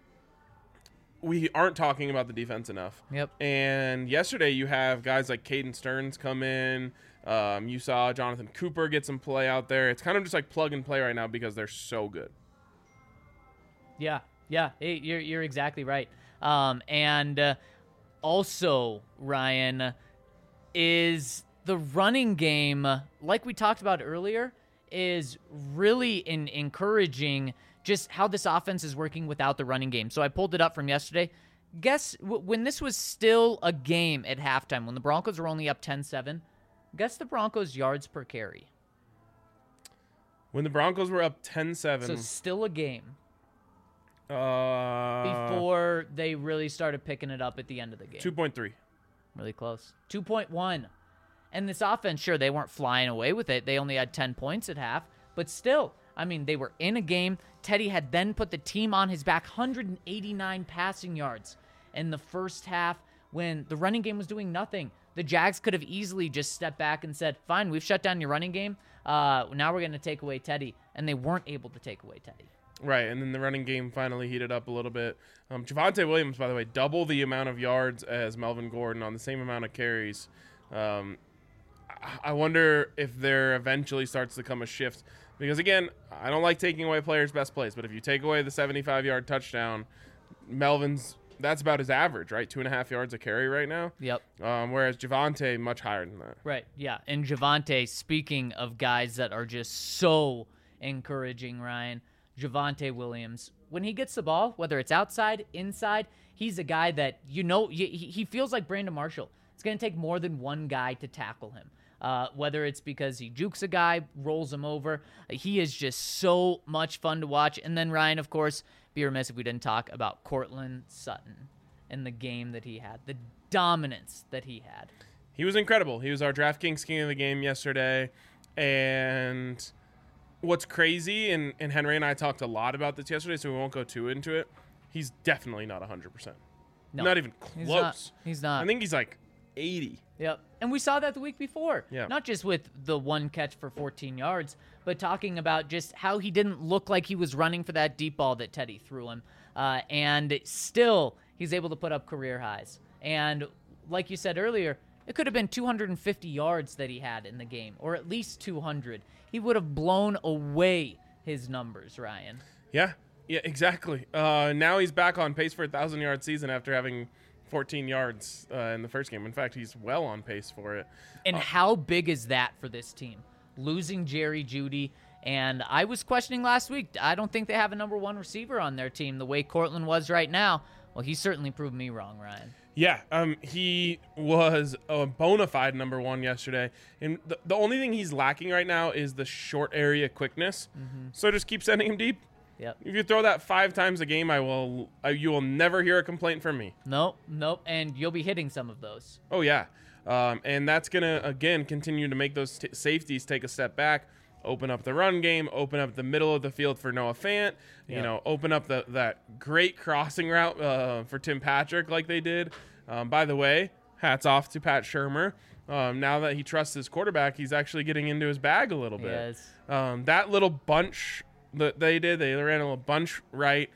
we aren't talking about the defense enough. Yep. And yesterday you have guys like Caden Stearns come in. Um, you saw Jonathan Cooper get some play out there. It's kind of just like plug and play right now because they're so good. Yeah, yeah, hey, you're you're exactly right. Um, and uh, also, Ryan, is the running game, uh, like we talked about earlier, is really in encouraging just how this offense is working without the running game. So I pulled it up from yesterday. Guess w- when this was still a game at halftime, when the Broncos were only up ten seven, guess the Broncos' yards per carry. When the Broncos were up ten seven, So still a game uh, before they really started picking it up at the end of the game. two point three. Really close. two point one. And this offense, sure, they weren't flying away with it. They only had ten points at half. But still, I mean, they were in a game. Teddy had then put the team on his back, one hundred eighty-nine passing yards in the first half when the running game was doing nothing. The Jags could have easily just stepped back and said, fine, we've shut down your running game. Uh, now we're going to take away Teddy. And they weren't able to take away Teddy. Right, and then the running game finally heated up a little bit. Um, Javonte Williams, by the way, double the amount of yards as Melvin Gordon on the same amount of carries. Um, I- I wonder if there eventually starts to come a shift. Because, again, I don't like taking away players' best plays, but if you take away the seventy-five-yard touchdown, Melvin's, that's about his average, right? Two and a half yards a carry right now. Yep. Um, whereas Javonte, much higher than that. Right, yeah. And Javonte, speaking of guys that are just so encouraging, Ryan, Javonte Williams, when he gets the ball, whether it's outside, inside, he's a guy that, you know, he, he feels like Brandon Marshall. It's going to take more than one guy to tackle him. Uh, whether it's because he jukes a guy, rolls him over. He is just so much fun to watch. And then, Ryan, of course, be remiss if we didn't talk about Cortland Sutton and the game that he had, the dominance that he had. He was incredible. He was our DraftKings king of the game yesterday. And what's crazy, and, and Henry and I talked a lot about this yesterday, so we won't go too into it. He's definitely not one hundred percent. No, not even close. He's not. He's not. I think he's like eighty. Yep. And we saw that the week before. Yeah. Not just with the one catch for fourteen yards, but talking about just how he didn't look like he was running for that deep ball that Teddy threw him. Uh, and still, he's able to put up career highs. And like you said earlier, it could have been two hundred fifty yards that he had in the game, or at least two hundred. He would have blown away his numbers, Ryan. Yeah. Yeah, exactly. Uh, now he's back on pace for a thousand-yard season after having fourteen yards uh, in the first game. In fact, he's well on pace for it. And how big is that for this team? Losing Jerry Jeudy, and I was questioning last week, I don't think they have a number one receiver on their team the way Cortland was right now. Well, he certainly proved me wrong, Ryan. Yeah, um, he was a bona fide number one yesterday. And the, the only thing he's lacking right now is the short area quickness. Mm-hmm. So just keep sending him deep. Yep. If you throw that five times a game, I will. Uh, you will never hear a complaint from me. Nope, nope, and you'll be hitting some of those. Oh yeah, um, and that's gonna again continue to make those t- safeties take a step back, open up the run game, open up the middle of the field for Noah Fant. You Yep. know, open up the that great crossing route uh, for Tim Patrick like they did. Um, by the way, hats off to Pat Shurmur. Um, now that he trusts his quarterback, he's actually getting into his bag a little bit. Yes. Um, that little bunch that they did, they ran a little bunch right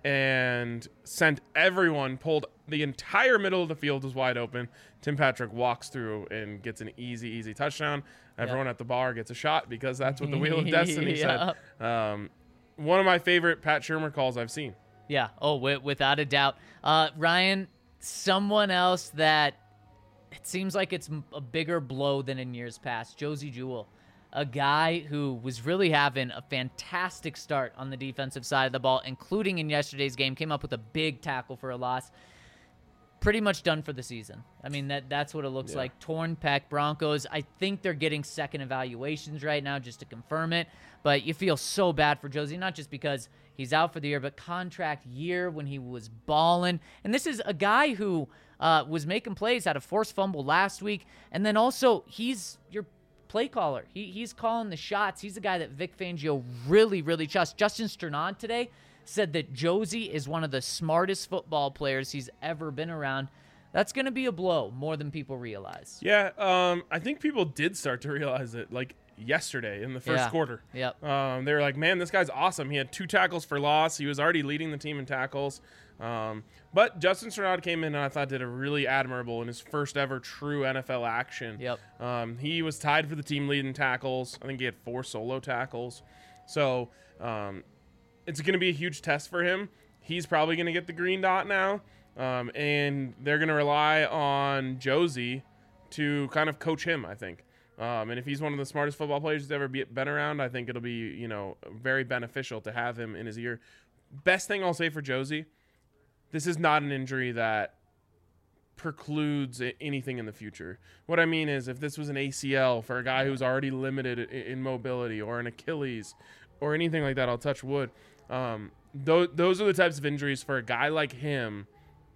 and sent everyone, pulled the entire middle of the field was wide open. Tim Patrick walks through and gets an easy, easy touchdown. Everyone at the bar gets a shot because that's what the Wheel of Destiny Yeah. said. Um, one of my favorite Pat Shurmur calls I've seen. Yeah. Oh, wi- without a doubt. Uh, Ryan, someone else that it seems like it's m- a bigger blow than in years past. Josie Jewell, a guy who was really having a fantastic start on the defensive side of the ball, including in yesterday's game, came up with a big tackle for a loss. Pretty much done for the season. I mean, that that's what it looks Yeah. like. Torn pec. Broncos, I think they're getting second evaluations right now just to confirm it. But you feel so bad for Josie, not just because he's out for the year, but contract year when he was balling. And this is a guy who uh, was making plays, had a forced fumble last week. And then also, he's your play caller. He, he's calling the shots. He's a guy that Vic Fangio really, really trusts. Justin Strnad today said that Josie is one of the smartest football players he's ever been around. That's going to be a blow more than people realize. Yeah, um, I think people did start to realize it like yesterday in the first Yeah. quarter. Yep. Um, they were like, man, this guy's awesome. He had two tackles for loss. He was already leading the team in tackles. Um, but Justin Strnad came in and I thought did a really admirable in his first ever true N F L action. Yep. Um, he was tied for the team lead in tackles. I think he had four solo tackles. So um, it's going to be a huge test for him. He's probably going to get the green dot now. Um, and they're going to rely on Josie to kind of coach him, I think. Um, and if he's one of the smartest football players who's ever be, been around, I think it'll be, you know, very beneficial to have him in his ear. Best thing I'll say for Josie, this is not an injury that precludes anything in the future. What I mean is if this was an A C L for a guy who's already limited in mobility or an Achilles or anything like that, I'll touch wood. Um, th- those are the types of injuries for a guy like him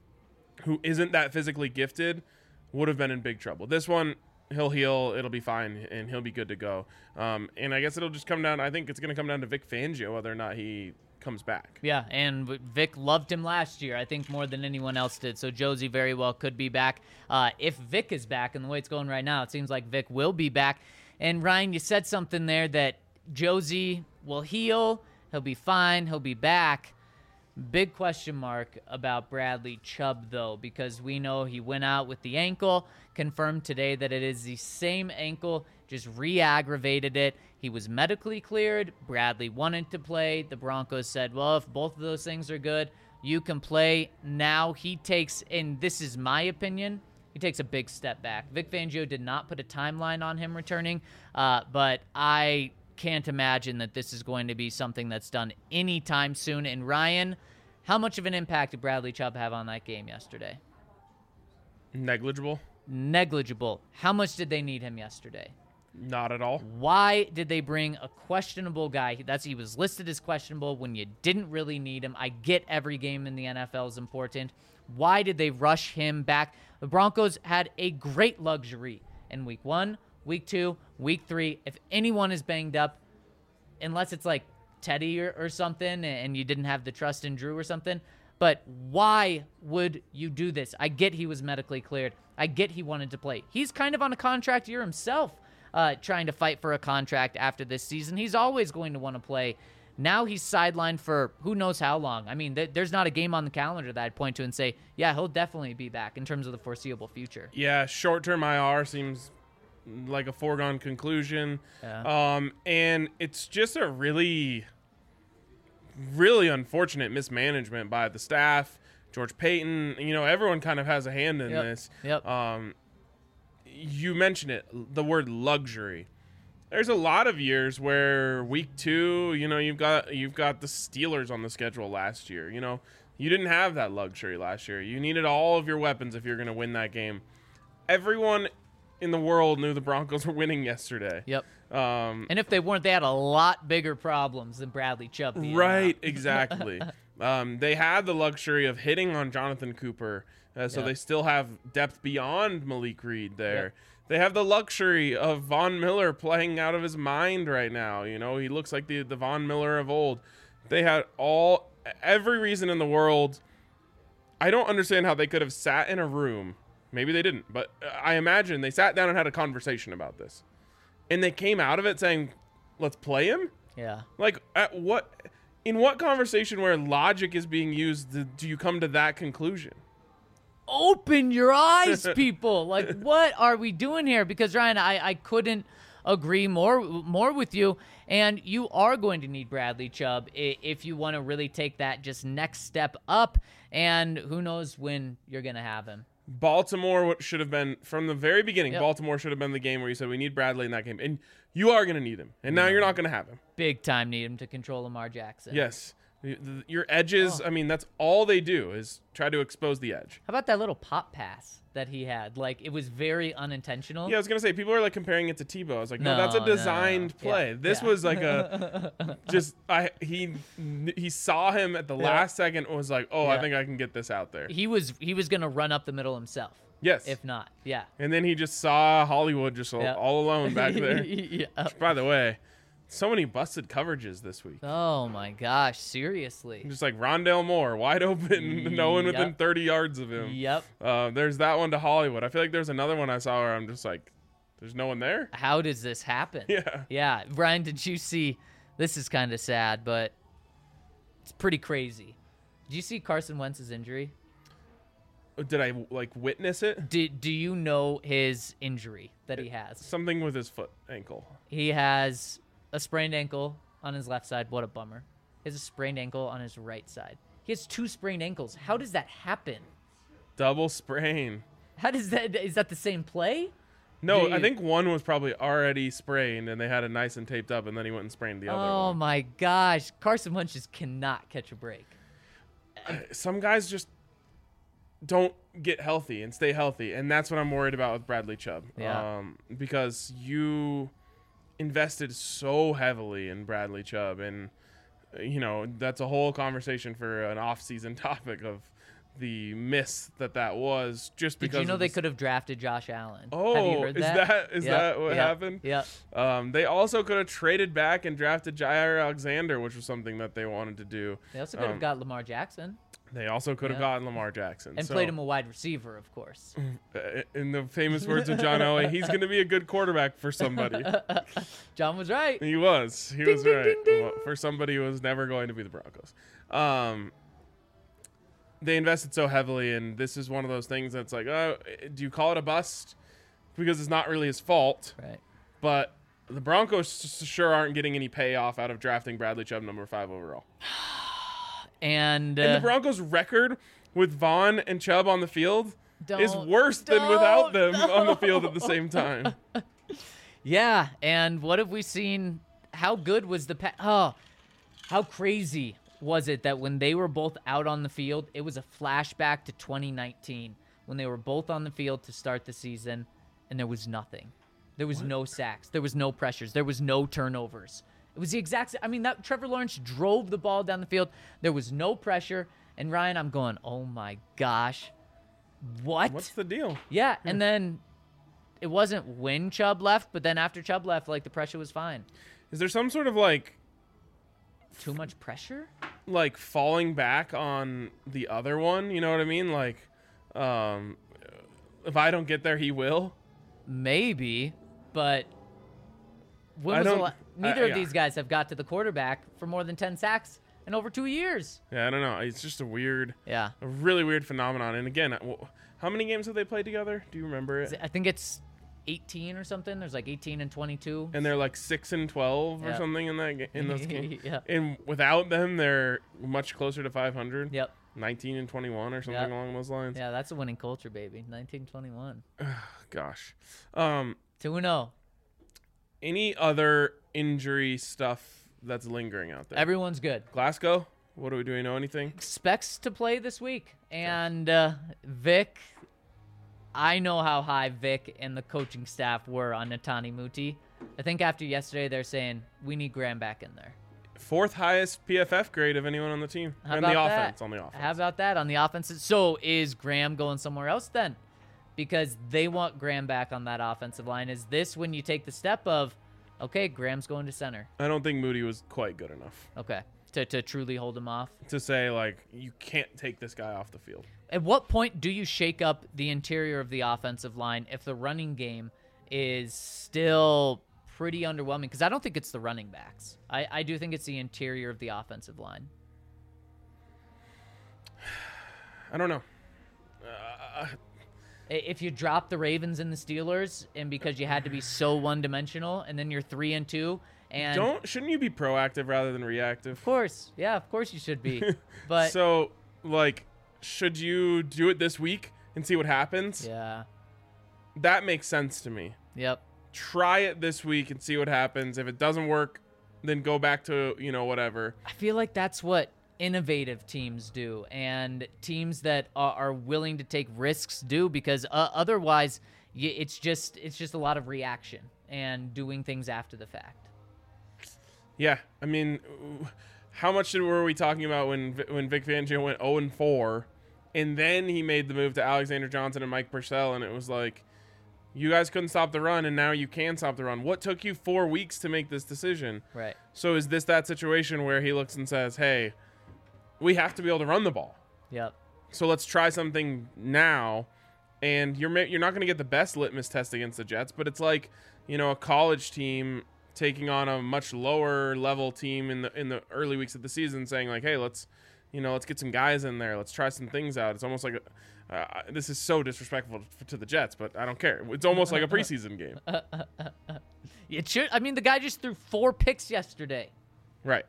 who isn't that physically gifted would have been in big trouble. This one, he'll heal, it'll be fine, and he'll be good to go. Um, and I guess it'll just come down, I think it's going to come down to Vic Fangio, whether or not he comes back. Yeah, and Vic loved him last year, I think more than anyone else did. So Josie very well could be back. Uh, if Vic is back, and the way it's going right now, it seems like Vic will be back. And Ryan, you said something there that Josie will heal, he'll be fine, he'll be back. Big question mark about Bradley Chubb, though, because we know he went out with the ankle, confirmed today that it is the same ankle, just re-aggravated it. He was medically cleared. Bradley wanted to play. The Broncos said, well, if both of those things are good, you can play. Now he takes, and this is my opinion, he takes a big step back. Vic Fangio did not put a timeline on him returning, uh, but I can't imagine that this is going to be something that's done anytime soon. And Ryan, how much of an impact did Bradley Chubb have on that game yesterday? Negligible? Negligible. How much did they need him yesterday? Not at all. Why did they bring a questionable guy? That's he was listed as questionable when you didn't really need him. I get every game in the N F L is important. Why did they rush him back? The Broncos had a great luxury in week one, week two, week three. If anyone is banged up, unless it's like Teddy or, or something and you didn't have the trust in Drew or something, but why would you do this? I get he was medically cleared. I get he wanted to play. He's kind of on a contract year himself, uh, trying to fight for a contract after this season. He's always going to want to play. Now he's sidelined for who knows how long. I mean, th- there's not a game on the calendar that I'd point to and say, yeah, he'll definitely be back in terms of the foreseeable future. Yeah, short-term I R seems like a foregone conclusion. Yeah. Um, and it's just a really, really unfortunate mismanagement by the staff, George Payton. You know, everyone kind of has a hand in Yep. this. Yep. Um, you mentioned it, the word luxury. There's a lot of years where week two, you know, you've got you've got the Steelers on the schedule last year. You know, you didn't have that luxury last year. You needed all of your weapons if you're going to win that game. Everyone in the world knew the Broncos were winning yesterday. Yep. Um, And if they weren't, they had a lot bigger problems than Bradley Chubb. being right, out. exactly. um, they had the luxury of hitting on Jonathan Cooper, uh, so Yep. they still have depth beyond Malik Reed there. Yep. They have the luxury of Von Miller playing out of his mind right now. You know, he looks like the, the Von Miller of old. They had all every reason in the world. I don't understand how they could have sat in a room. Maybe they didn't, but I imagine they sat down and had a conversation about this. And they came out of it saying, let's play him? Yeah. Like, at what, in what conversation where logic is being used do, do you come to that conclusion? Open your eyes, people. Like, what are we doing here? Because, Ryan, I, I couldn't agree more more with you. And you are going to need Bradley Chubb i- if you want to really take that just next step up. And who knows when you're going to have him. Baltimore what should have been, from the very beginning, Yep. Baltimore should have been the game where you said, we need Bradley in that game. And you are going to need him. And now you're not going to have him. Big time need him to control Lamar Jackson. Yes. Y- th- Your edges, I mean, that's all they do is try to expose the edge. How about that little pop pass that he had? Like, it was very unintentional. Yeah, I was gonna say people are like comparing it to Tebow. I was like, no, No, that's a no, no, no. designed Yeah, play. This yeah. was like a just I he he saw him at the Yeah. last second and was like, oh, I Yeah. think I can get this out there. He was he was going to run up the middle himself. Yes. If not. Yeah. And then he just saw Hollywood just all, Yeah. all alone back there. yeah. By the way, so many busted coverages this week. Oh my gosh, seriously. Just like Rondale Moore, wide open, no one within Yep. thirty yards of him. Yep. Uh, there's that one to Hollywood. I feel like there's another one I saw where I'm just like, there's no one there. How does this happen? Yeah. Yeah. Brian, did you see this is kind of sad, but it's pretty crazy. Did you see Carson Wentz's injury? Did I like witness it? Do, do you know his injury that he has? Something with his foot, ankle. He has a sprained ankle on his left side. What a bummer. He has a sprained ankle on his right side. He has two sprained ankles. How does that happen? Double sprain. How does that? Is that the same play? No, Do I you- think one was probably already sprained, and they had it nice and taped up, and then he went and sprained the other Oh one. my gosh, Carson Wentz just cannot catch a break. Some guys just don't get healthy and stay healthy, and that's what I'm worried about with Bradley Chubb. Yeah. Um, because you invested so heavily in Bradley Chubb, and uh, you know that's a whole conversation for an off-season topic of the miss that that was. Just Did because you know of they this- could have drafted Josh Allen? Oh, have you heard is that? that- is Yep, that what yep, happened? Yep. Um, they also could have traded back and drafted Jair Alexander, which was something that they wanted to do. They also could have Um, got Lamar Jackson They also could have Yeah. gotten Lamar Jackson. and so, played him a wide receiver, of course. uh, in the famous words of John Elway, he's going to be a good quarterback for somebody. John was right. He was. He Ding, was ding, right. ding, ding. Well, for somebody who was never going to be the Broncos. Um, they invested so heavily, and this is one of those things that's like, oh, do you call it a bust? Because it's not really his fault. Right. But the Broncos s- sure aren't getting any payoff out of drafting Bradley Chubb number five overall. And, uh, And the Broncos' record with Vaughn and Chubb on the field is Don't- worse than without them don't, on the field at the same time. yeah, and what have we seen? How good was the pa- oh, how crazy was it that when they were both out on the field, it was a flashback to twenty nineteen when they were both on the field to start the season, and there was nothing. There was no sacks. There was no pressures. There was no turnovers. It was the exact. I mean, that Trevor Lawrence drove the ball down the field. There was no pressure. And Ryan, I'm going, oh my gosh, what? What's the deal? Yeah, and then it wasn't when Chubb left, but then after Chubb left, like the pressure was fine. Is there some sort of like Too much pressure? like falling back on the other one? You know what I mean? Like, um, if I don't get there, he will. Maybe, but when I was the don't- la- neither I- of yeah. these guys have got to the quarterback for more than ten sacks in over two years. Yeah, I don't know. It's just a weird, Yeah, a really weird phenomenon. And again, w- how many games have they played together? Do you remember it? I think it's eighteen or something. There's like eighteen and twenty-two. And they're like six and twelve or Yeah. something in that ga- in those games. Yeah. And without them, they're much closer to five hundred. Yep. nineteen and twenty-one or something Yep. along those lines. Yeah, that's a winning culture, baby. nineteen twenty-one. Gosh. Um, two and oh. any other injury stuff that's lingering out there? Everyone's good. Glasgow? What do we do? We know anything? Expects to play this week. And uh, Vic, I know how high Vic and the coaching staff were on Netani Muti. I think after yesterday, they're saying we need Graham back in there. Fourth highest P F F grade of anyone on the team. How on about the that? offense. On the offense. How about that on the offense? So is Graham going somewhere else then? Because they want Graham back on that offensive line. Is this when you take the step of, okay, Graham's going to center? I don't think Moody was quite good enough Okay, to, to truly hold him off. to say, like, you can't take this guy off the field. At what point do you shake up the interior of the offensive line if the running game is still pretty underwhelming? Because I don't think it's the running backs. I, I do think it's the interior of the offensive line. I don't know. Uh, If you drop the Ravens and the Steelers, and because you had to be so one-dimensional, and then you're three and two, and don't shouldn't you be proactive rather than reactive? of course, yeah, of course you should be. But So, like, should you do it this week and see what happens? yeah, That makes sense to me. yep, Try it this week and see what happens. If it doesn't work, then go back to, you know, whatever. I feel like that's what innovative teams do, and teams that are, are willing to take risks do, because uh, otherwise, y- it's just it's just a lot of reaction and doing things after the fact. Yeah, I mean, how much did, were we talking about when when Vic Fangio went oh and four, and then he made the move to Alexander Johnson and Mike Purcell, and it was like, you guys couldn't stop the run, and now you can stop the run. What took you four weeks to make this decision? Right. So is this that situation where he looks and says, hey, we have to be able to run the ball, Yep. so let's try something now, and you're ma- you're not going to get the best litmus test against the Jets, but it's like, you know, a college team taking on a much lower level team in the in the early weeks of the season, saying like, hey, let's, you know, let's get some guys in there, let's try some things out. It's almost like a, uh, this is so disrespectful to the Jets, but I don't care. It's almost like a preseason game, It should. I mean, the guy just threw four picks yesterday. right?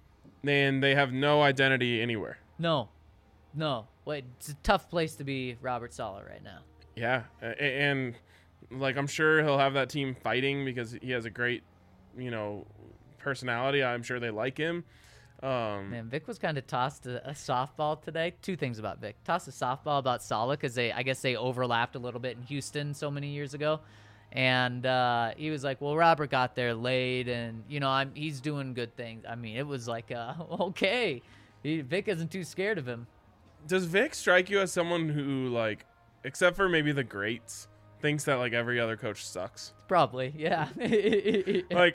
And they have no identity anywhere. No, no. Wait, it's a tough place to be Robert Saleh right now. Yeah, a- and like I'm sure he'll have that team fighting because he has a great, you know, personality. I'm sure they like him. Um, Man, Vic was kind of tossed a, a softball today. Two things about Vic. Tossed a softball about Saleh because they, I guess they overlapped a little bit in Houston so many years ago. And uh, he was like, well, Robert got there late, and, you know, I'm, he's doing good things. I mean, it was like, uh, okay. He, Vic isn't too scared of him. does Vic strike you as someone who, like, except for maybe the greats, thinks that like every other coach sucks? Probably, yeah. Like,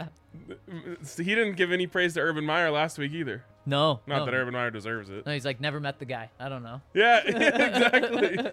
he didn't give any praise to Urban Meyer last week either. no. Not no. that Urban Meyer deserves it. No, he's like, never met the guy. I don't know. Yeah, exactly.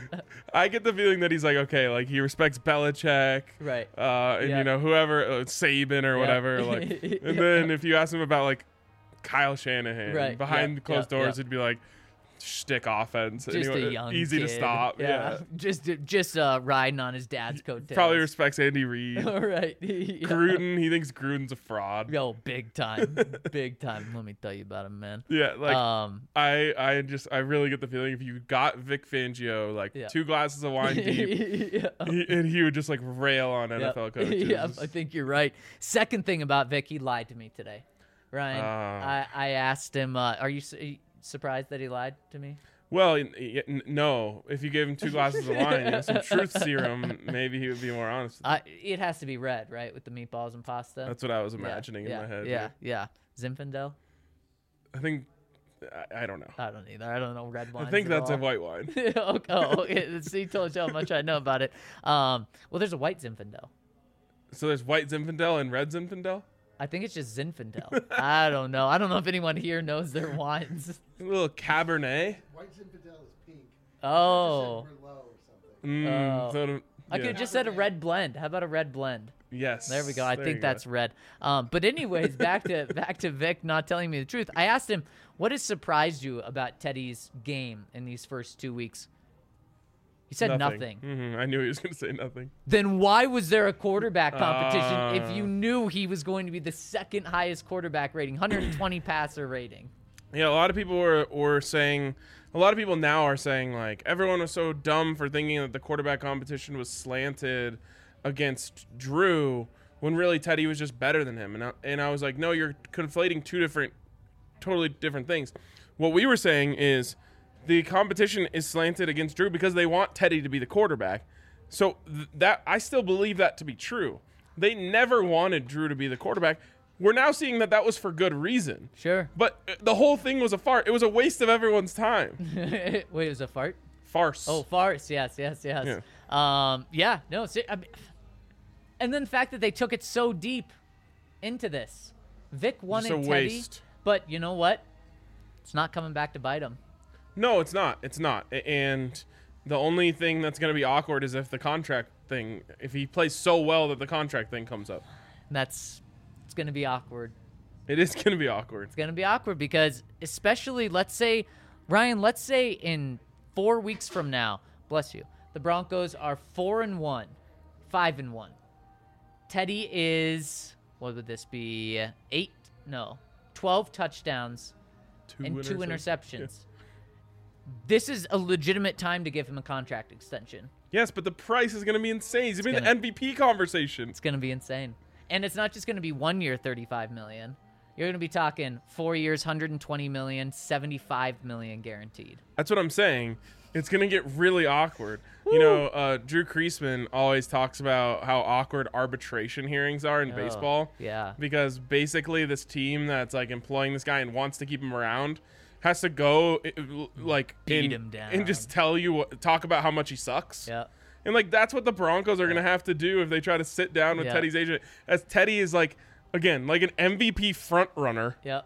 I get the feeling that he's like, okay, like he respects Belichick, Right. uh, and Yeah. you know whoever, uh, Saban or Yeah. whatever. Like, Yeah. and then if you ask him about like Kyle Shanahan, Right. behind Yeah. closed Yeah. doors, Yeah. it'd be like shtick offense, Just Anyway, a young easy to kid. stop. Yeah, Just just uh, riding on his dad's coattails. probably respects Andy Reid. All right. Yeah. Gruden, he thinks Gruden's a fraud. Yo, big time. Big time. Let me tell you about him, man. Yeah, like um, I, I just, I really get the feeling if you got Vic Fangio, like Yeah. two glasses of wine deep, yeah. he, and he would just like rail on N F L Yep. coaches. Yep, I think you're right. Second thing about Vic, he lied to me today. Ryan, Ah. I, I asked him, uh, are you su- surprised that he lied to me? Well, n- y- n- no. If you gave him two glasses of wine, you know, some truth serum, maybe he would be more honest. Uh, it has to be red, right, with the meatballs and pasta? That's what I was Yeah, imagining in yeah, my head. Yeah, yeah. Zinfandel? I think, I, I don't know. I don't either. I don't know red wines I think at that's a all. white wine. okay. Oh, okay. See, told you how much I know about it. Um, well, there's a white Zinfandel. So there's white Zinfandel and red Zinfandel? I think it's just Zinfandel. I don't know. I don't know if anyone here knows their wines. A little Cabernet. White Zinfandel is pink. Oh. Just said Merlot or something. Mm, Oh. so to- I yeah. could have just said a red blend. How about a red blend? Yes. There we go. I There think you go. that's red. Um, but anyways, back to back to Vic not telling me the truth. I asked him, what has surprised you about Teddy's game in these first two weeks? He said nothing. Mhm, I knew he was going to say nothing. Then why was there a quarterback competition if Uh. you knew he was going to be the second highest quarterback rating, one hundred twenty passer rating? Yeah, a lot of people were, were saying, a lot of people now are saying, like, everyone was so dumb for thinking that the quarterback competition was slanted against Drew when really Teddy was just better than him. And I, and I was like, no, you're conflating two different, totally different things. What we were saying is the competition is slanted against Drew because they want Teddy to be the quarterback. So th- that I still believe that to be true. They never wanted Drew to be the quarterback. We're now seeing that that was for good reason. Sure. But uh, the whole thing was a fart. It was a waste of everyone's time. Wait, it was a fart? Farce. Oh, farce. Yes, yes, yes. Yeah. Um, yeah, no. See, I mean, and then the fact that they took it so deep into this. Vic wanted Just a Teddy, waste. but you know what? It's not coming back to bite him. No, it's not. It's not. A- And the only thing that's going to be awkward is if the contract thing, if he plays so well that the contract thing comes up. That's it's going to be awkward. It is going to be awkward. It's going to be awkward because, especially, let's say, Ryan, let's say in four weeks from now, bless you, the Broncos are four and one, five and one. Teddy is, what would this be? Eight? No, twelve touchdowns Two and two interceptions. interceptions. This is a legitimate time to give him a contract extension. Yes, but the price is going to be insane. He's been in the gonna- M V P conversation. It's going to be insane. And it's not just going to be one year, thirty-five million dollars. You're going to be talking four years, one hundred twenty million dollars, seventy-five million dollars guaranteed. That's what I'm saying. It's going to get really awkward. You know, uh, Drew Kreisman always talks about how awkward arbitration hearings are in Oh, baseball. yeah. Because basically this team that's like employing this guy and wants to keep him around has to go uh, like Beat in- him down. and just tell you what, talk about how much he sucks. Yeah. And like that's what the Broncos are going to have to do if they try to sit down with Yeah. Teddy's agent, as Teddy is like again like an M V P front runner. Yeah.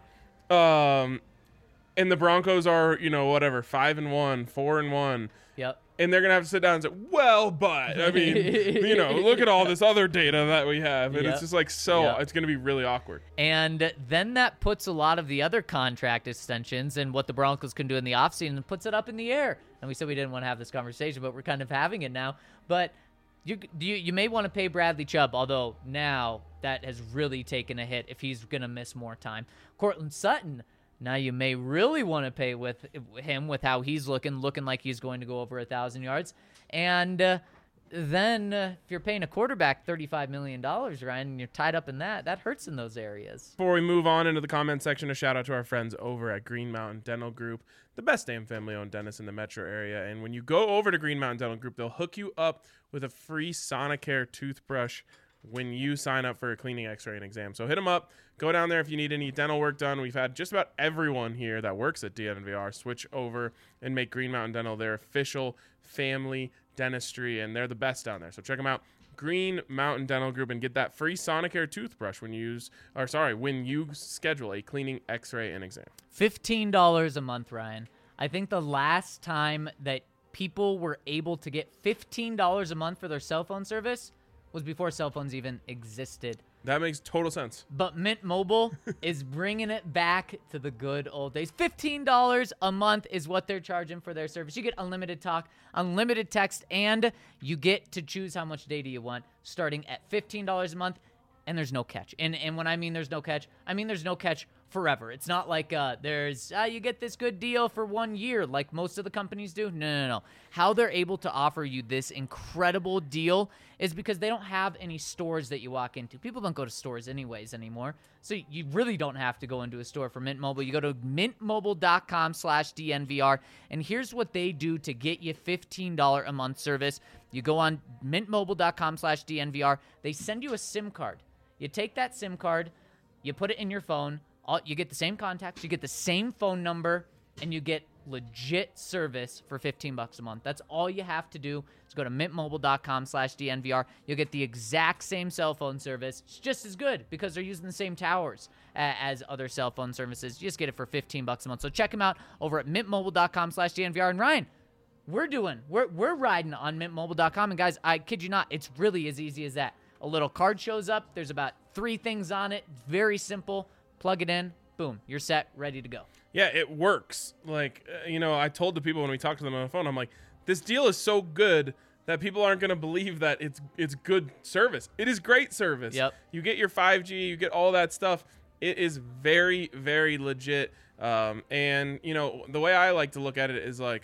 Um, and the Broncos are, you know, whatever, five and one, four and one, Yep. and they're gonna have to sit down and say, well, but I mean, you know, look at all this other data that we have, and Yep. it's just like so. Yep. It's gonna be really awkward. And then that puts a lot of the other contract extensions and what the Broncos can do in the offseason and puts it up in the air. And we said we didn't want to have this conversation, but we're kind of having it now. But you you, you may want to pay Bradley Chubb, although now that has really taken a hit if he's going to miss more time. Cortland Sutton, now you may really want to pay with him with how he's looking, looking like he's going to go over one thousand yards. And uh, then uh, if you're paying a quarterback thirty-five million dollars, Ryan, and you're tied up in that, that hurts in those areas. Before we move on into the comment section, a shout out to our friends over at Green Mountain Dental Group, the best damn family-owned dentist in the metro area. And when you go over to Green Mountain Dental Group, they'll hook you up with a free Sonicare toothbrush when you sign up for a cleaning, x-ray, and exam. So hit them up. Go down there if you need any dental work done. We've had just about everyone here that works at D N V R switch over and make Green Mountain Dental their official family dentistry, and they're the best down there. So check them out. Green Mountain Dental Group, and get that free Sonicare toothbrush when you use, or sorry, when you schedule a cleaning, x-ray, and exam. fifteen dollars a month, Ryan. I think the last time that people were able to get fifteen dollars a month for their cell phone service was before cell phones even existed. That makes total sense. But Mint Mobile is bringing it back to the good old days. fifteen dollars a month is what they're charging for their service. You get unlimited talk, unlimited text, and you get to choose how much data you want, starting at fifteen dollars a month, and there's no catch. And and when I mean there's no catch, I mean there's no catch forever. It's not like uh, there's uh, you get this good deal for one year like most of the companies do. No, no, no. How they're able to offer you this incredible deal is because they don't have any stores that you walk into. People don't go to stores anyways anymore. So you really don't have to go into a store for Mint Mobile. You go to mintmobile.com slash DNVR, and here's what they do to get you fifteen dollars a month service. You go on mintmobile.com slash DNVR. They send you a SIM card. You take that SIM card, you put it in your phone, all, you get the same contacts, you get the same phone number, and you get legit service for fifteen bucks a month. That's all you have to do is go to mintmobile.com slash DNVR. You'll get the exact same cell phone service. It's just as good because they're using the same towers uh, as other cell phone services. You just get it for fifteen bucks a month. So check them out over at mintmobile.com slash DNVR. And Ryan, we're doing, we're, we're riding on mintmobile dot com. And guys, I kid you not, it's really as easy as that. A little card shows up. There's about three things on it. Very simple. Plug it in. Boom. You're set. Ready to go. Yeah, it works. Like, uh, you know, I told the people when we talked to them on the phone, I'm like, this deal is so good that people aren't going to believe that it's it's good service. It is great service. Yep. You get your five G, you get all that stuff. It is very, very legit. Um, and, you know, the way I like to look at it is like,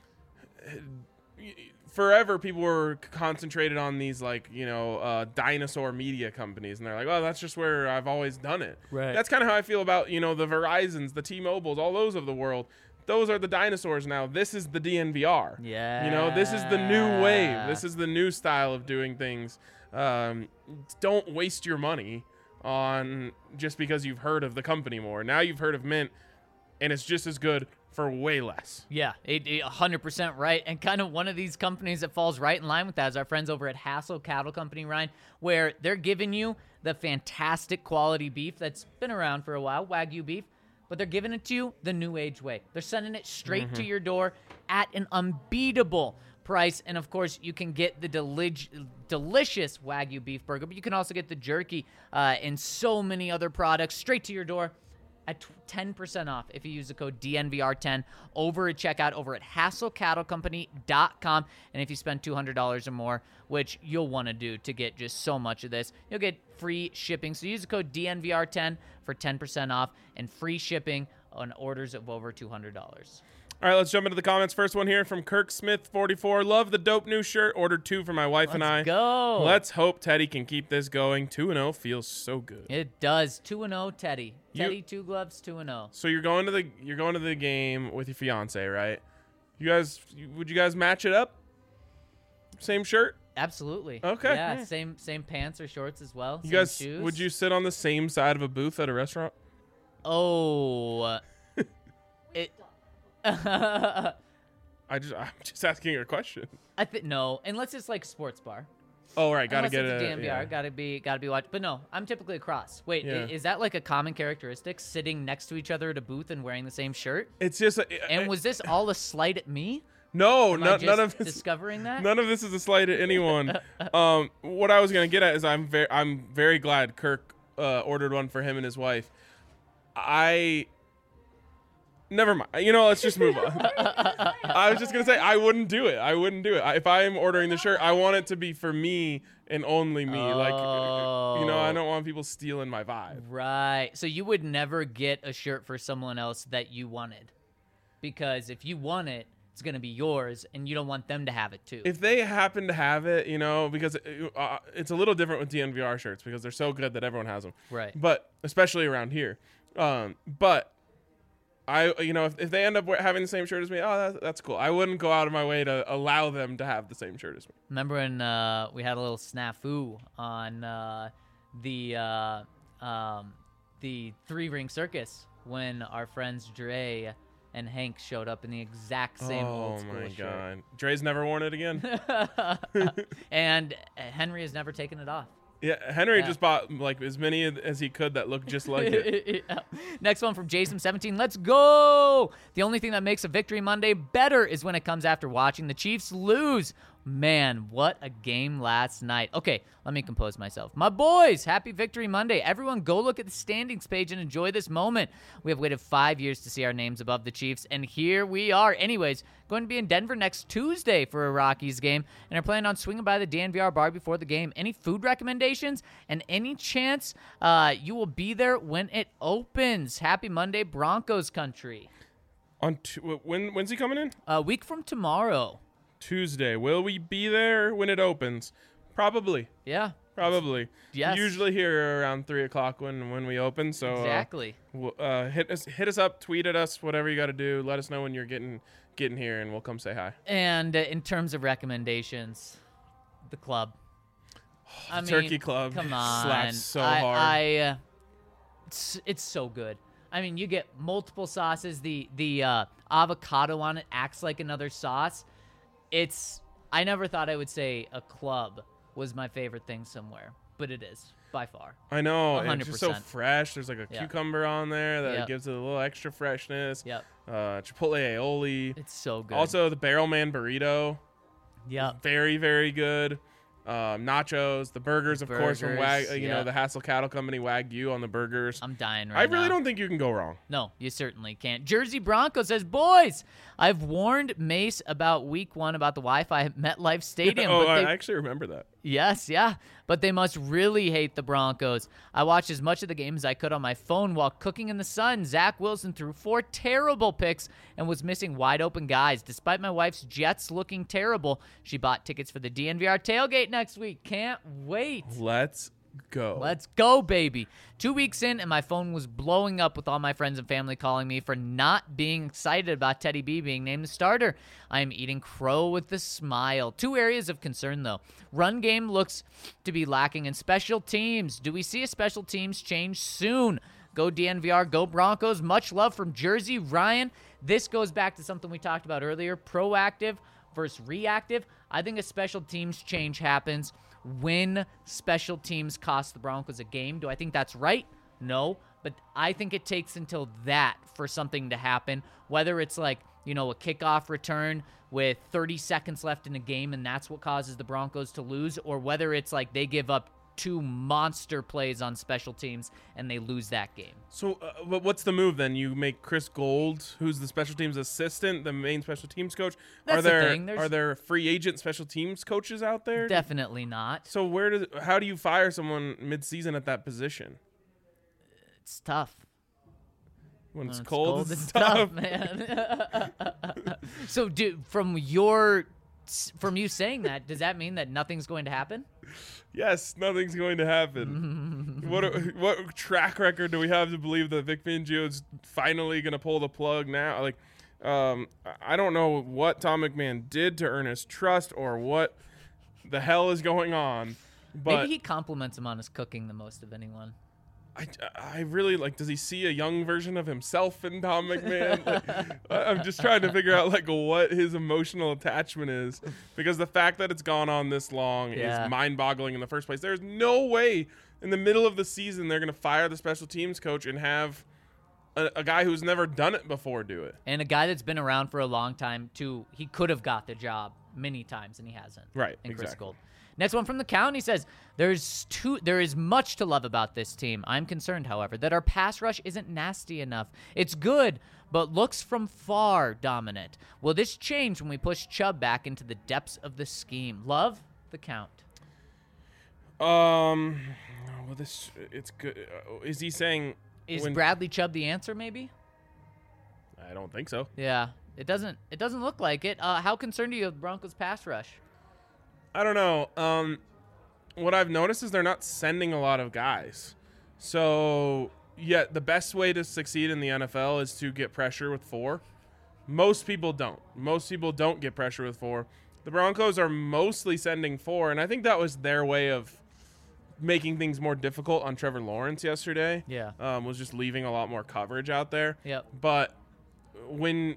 forever people were concentrated on these, like, you know, uh, dinosaur media companies, and they're like, well, that's just where I've always done it. Right. That's kind of how I feel about, you know, the Verizons, the T-Mobiles, all those of the world. those are the dinosaurs now. This is the D N V R. Yeah. You know, this is the new wave. This is the new style of doing things. Um, don't waste your money on just because you've heard of the company more. Now you've heard of Mint, and it's just as good for way less. Yeah, it, it, one hundred percent right. And kind of one of these companies that falls right in line with that is our friends over at Hassel Cattle Company, Ryan, where they're giving you the fantastic quality beef that's been around for a while, Wagyu beef, but they're giving it to you the new age way. They're sending it straight mm-hmm. to your door at an unbeatable price. And of course, you can get the delig- delicious Wagyu beef burger, but you can also get the jerky uh, and so many other products straight to your door at ten percent off if you use the code D N V R ten over at checkout over at hassel cattle company dot com. And if you spend two hundred dollars or more, which you'll want to do to get just so much of this, you'll get free shipping. So use the code D N V R ten for ten percent off and free shipping on orders of over two hundred dollars. All right, let's jump into the comments. First one here from Kirk Smith, forty-four. Love the dope new shirt. Ordered two for my wife Let's and I. Let's go. Let's hope Teddy can keep this going. two and oh feels so good. It does. two and oh, Teddy. You- Teddy, two gloves, two and oh. So you're going to the you're going to the game with your fiance, right? You guys, would you guys match it up? Same shirt? Absolutely. Okay. Yeah, Yeah. same same pants or shorts as well. You same guys, shoes. would you sit on the same side of a booth at a restaurant? Oh. it. I just I'm just asking a question. I think no, unless it's like sports bar. Oh right, gotta Unless get it's it. a D N V R, yeah. gotta be gotta be watched. But no, I'm typically across. Wait, Yeah. i- is that like a common characteristic, sitting next to each other at a booth and wearing the same shirt? It's just. And was this all a slight at me? no, Am I no just none of this. discovering that? None of this is a slight at anyone. um, what I was gonna get at is I'm very I'm very glad Kirk uh, ordered one for him and his wife. I. Never mind. You know, let's just move on. I was just gonna say I wouldn't do it. I wouldn't do it. I, if I am ordering the shirt, I want it to be for me and only me. Like, you know, I don't want people stealing my vibe. Right. So you would never get a shirt for someone else that you wanted, because if you want it, it's gonna be yours, and you don't want them to have it too. If they happen to have it, you know, because it, uh, it's a little different with D N V R shirts because they're so good that everyone has them. Right. But especially around here. Um, but. I, you know, if, if they end up wear- having the same shirt as me, oh, that, that's cool. I wouldn't go out of my way to allow them to have the same shirt as me. Remember when uh, we had a little snafu on uh, the uh, um, the three ring circus when our friends Dre and Hank showed up in the exact same oh old school my shirt. god, Dre's never worn it again. And Henry has never taken it off. Yeah, Henry Yeah. just bought like as many as he could that looked just like it. Yeah. Next one from Jason seventeen. Let's go. The only thing that makes a Victory Monday better is when it comes after watching the Chiefs lose. Man, what a game last night. Okay, let me compose myself. My boys, happy Victory Monday. Everyone go look at the standings page and enjoy this moment. We have waited five years to see our names above the Chiefs, and here we are. Anyways, going to be in Denver next Tuesday for a Rockies game, and are planning on swinging by the D N V R bar before the game. Any food recommendations and any chance uh, you will be there when it opens? Happy Monday, Broncos country. On tu- when when's he coming in? A week from tomorrow. Tuesday. Will we be there when it opens? Probably. Yeah, Probably. Yes. Usually here around three o'clock when when we open. So uh, exactly. w- uh, hit us hit us up, tweet at us, whatever you got to do. Let us know when you're getting getting here, and we'll come say hi. And uh, in terms of recommendations, the club. I mean, Turkey Club Come on, slaps so I, hard. I, uh, it's, it's so good. I mean, you get multiple sauces. The the uh, avocado on it acts like another sauce. It's. I never thought I would say a club was my favorite thing somewhere, but it is by far. I know. one hundred It's just so percent. fresh. There's like a Yeah. cucumber on there that Yep. gives it a little extra freshness. Yep, Uh, Chipotle aioli. it's so good. Also, the Barrel Man burrito. yep. Very, very good. Um, nachos, the burgers, of course, from Wag, Burgers, uh, you yeah. know, the Hassel Cattle Company Wagyu on the burgers. I'm dying right I now. really don't think you can go wrong. No, you certainly can't. Jersey Bronco says, boys, I've warned Mace about week one about the Wi-Fi at MetLife Stadium. oh, but I they, actually remember that. yes, yeah. But they must really hate the Broncos. I watched as much of the game as I could on my phone while cooking in the sun. Zach Wilson threw four terrible picks and was missing wide open guys. Despite my wife's Jets looking terrible, she bought tickets for the D N V R tailgate next week. Can't wait. Let's go. Let's go, baby. Two weeks in, and my phone was blowing up with all my friends and family calling me for not being excited about Teddy B being named the starter. I am eating crow with a smile. Two areas of concern, though. Run game looks to be lacking in special teams. Do we see a special teams change soon? Go D N V R, go Broncos. Much love from Jersey. Ryan, this goes back to something we talked about earlier, proactive versus reactive. I think a special teams change happens when special teams cost the Broncos a game. Do I think that's right? No, but I think it takes until that for something to happen, whether it's like, you know, a kickoff return with thirty seconds left in a game and that's what causes the Broncos to lose, or whether it's like they give up two monster plays on special teams and they lose that game. So uh, but what's the move then? You make Chris Gold, who's the special teams assistant, the main special teams coach. That's are the there thing. There's- are there free agent special teams coaches out there? Definitely not. So where does how do you fire someone mid-season at that position? It's tough. When it's, When it's cold, cold, it's, it's tough. tough, man. So, dude, from your, from you saying that, does that mean that nothing's going to happen? Yes, nothing's going to happen. what what track record do we have to believe that Vic Fangio is finally going to pull the plug now? Like, um, I don't know what Tom McMahon did to earn his trust or what the hell is going on. But Maybe he compliments him on his cooking the most of anyone. I, I really like, does he see a young version of himself in Tom McMahon? Like, I- I'm just trying to figure out like what his emotional attachment is, because the fact that it's gone on this long Yeah. is mind boggling in the first place. There's no way in the middle of the season they're going to fire the special teams coach and have a, a guy who's never done it before do it. And a guy that's been around for a long time, too, he could have got the job many times, and he hasn't. Right, And Chris exactly. Gold. Next one from the county says, There's two, there is much to love about this team. I'm concerned, however, that our pass rush isn't nasty enough. It's good, but looks from far dominant. Will this change when we push Chubb back into the depths of the scheme? Love the count. Um, well, this, it's good. Uh, Is he saying, Is when- Bradley Chubb the answer, maybe? I don't think so. Yeah, it doesn't. It doesn't look like it. Uh, how concerned are you with Broncos pass rush? I don't know. Um, what I've noticed is they're not sending a lot of guys. So, yeah, the best way to succeed in the N F L is to get pressure with four. Most people don't. Most people don't get pressure with four. The Broncos are mostly sending four, and I think that was their way of making things more difficult on Trevor Lawrence yesterday. Yeah. Um, was just leaving a lot more coverage out there. Yep. But when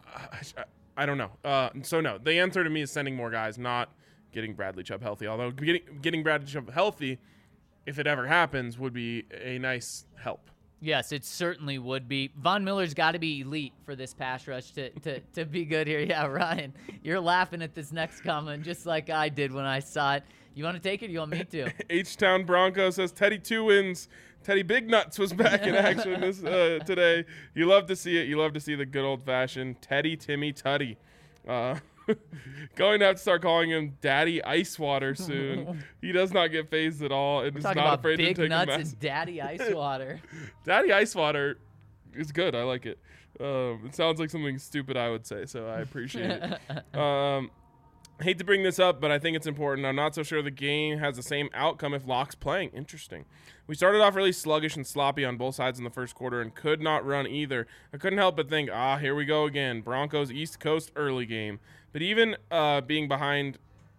I, I don't know. Uh, so no, the answer to me is sending more guys, not getting Bradley Chubb healthy. Although getting getting Bradley Chubb healthy, if it ever happens, would be a nice help. Yes, it certainly would be. Von Miller's got to be elite for this pass rush to, to, to be good here. Yeah, Ryan, you're laughing at this next comment just like I did when I saw it. You want to take it or you want me to? H-Town Bronco says Teddy two wins. Teddy Big Nuts was back in action this uh, today. You love to see it. You love to see the good old-fashioned Teddy Timmy Tutty. Uh, going to have to start calling him Daddy Ice Water soon. He does not get phased at all and is Talking not about afraid big to take nuts a mess. and daddy ice water. Daddy Ice Water is good. I like it. Um, it sounds like something stupid I would say, so I appreciate it. Um, hate to bring this up, but I think it's important. I'm not so sure the game has the same outcome if Locke's playing. Interesting. We started off really sluggish and sloppy on both sides in the first quarter and could not run either. I couldn't help but think, ah, here we go again. Broncos East Coast early game. But even uh, being behind,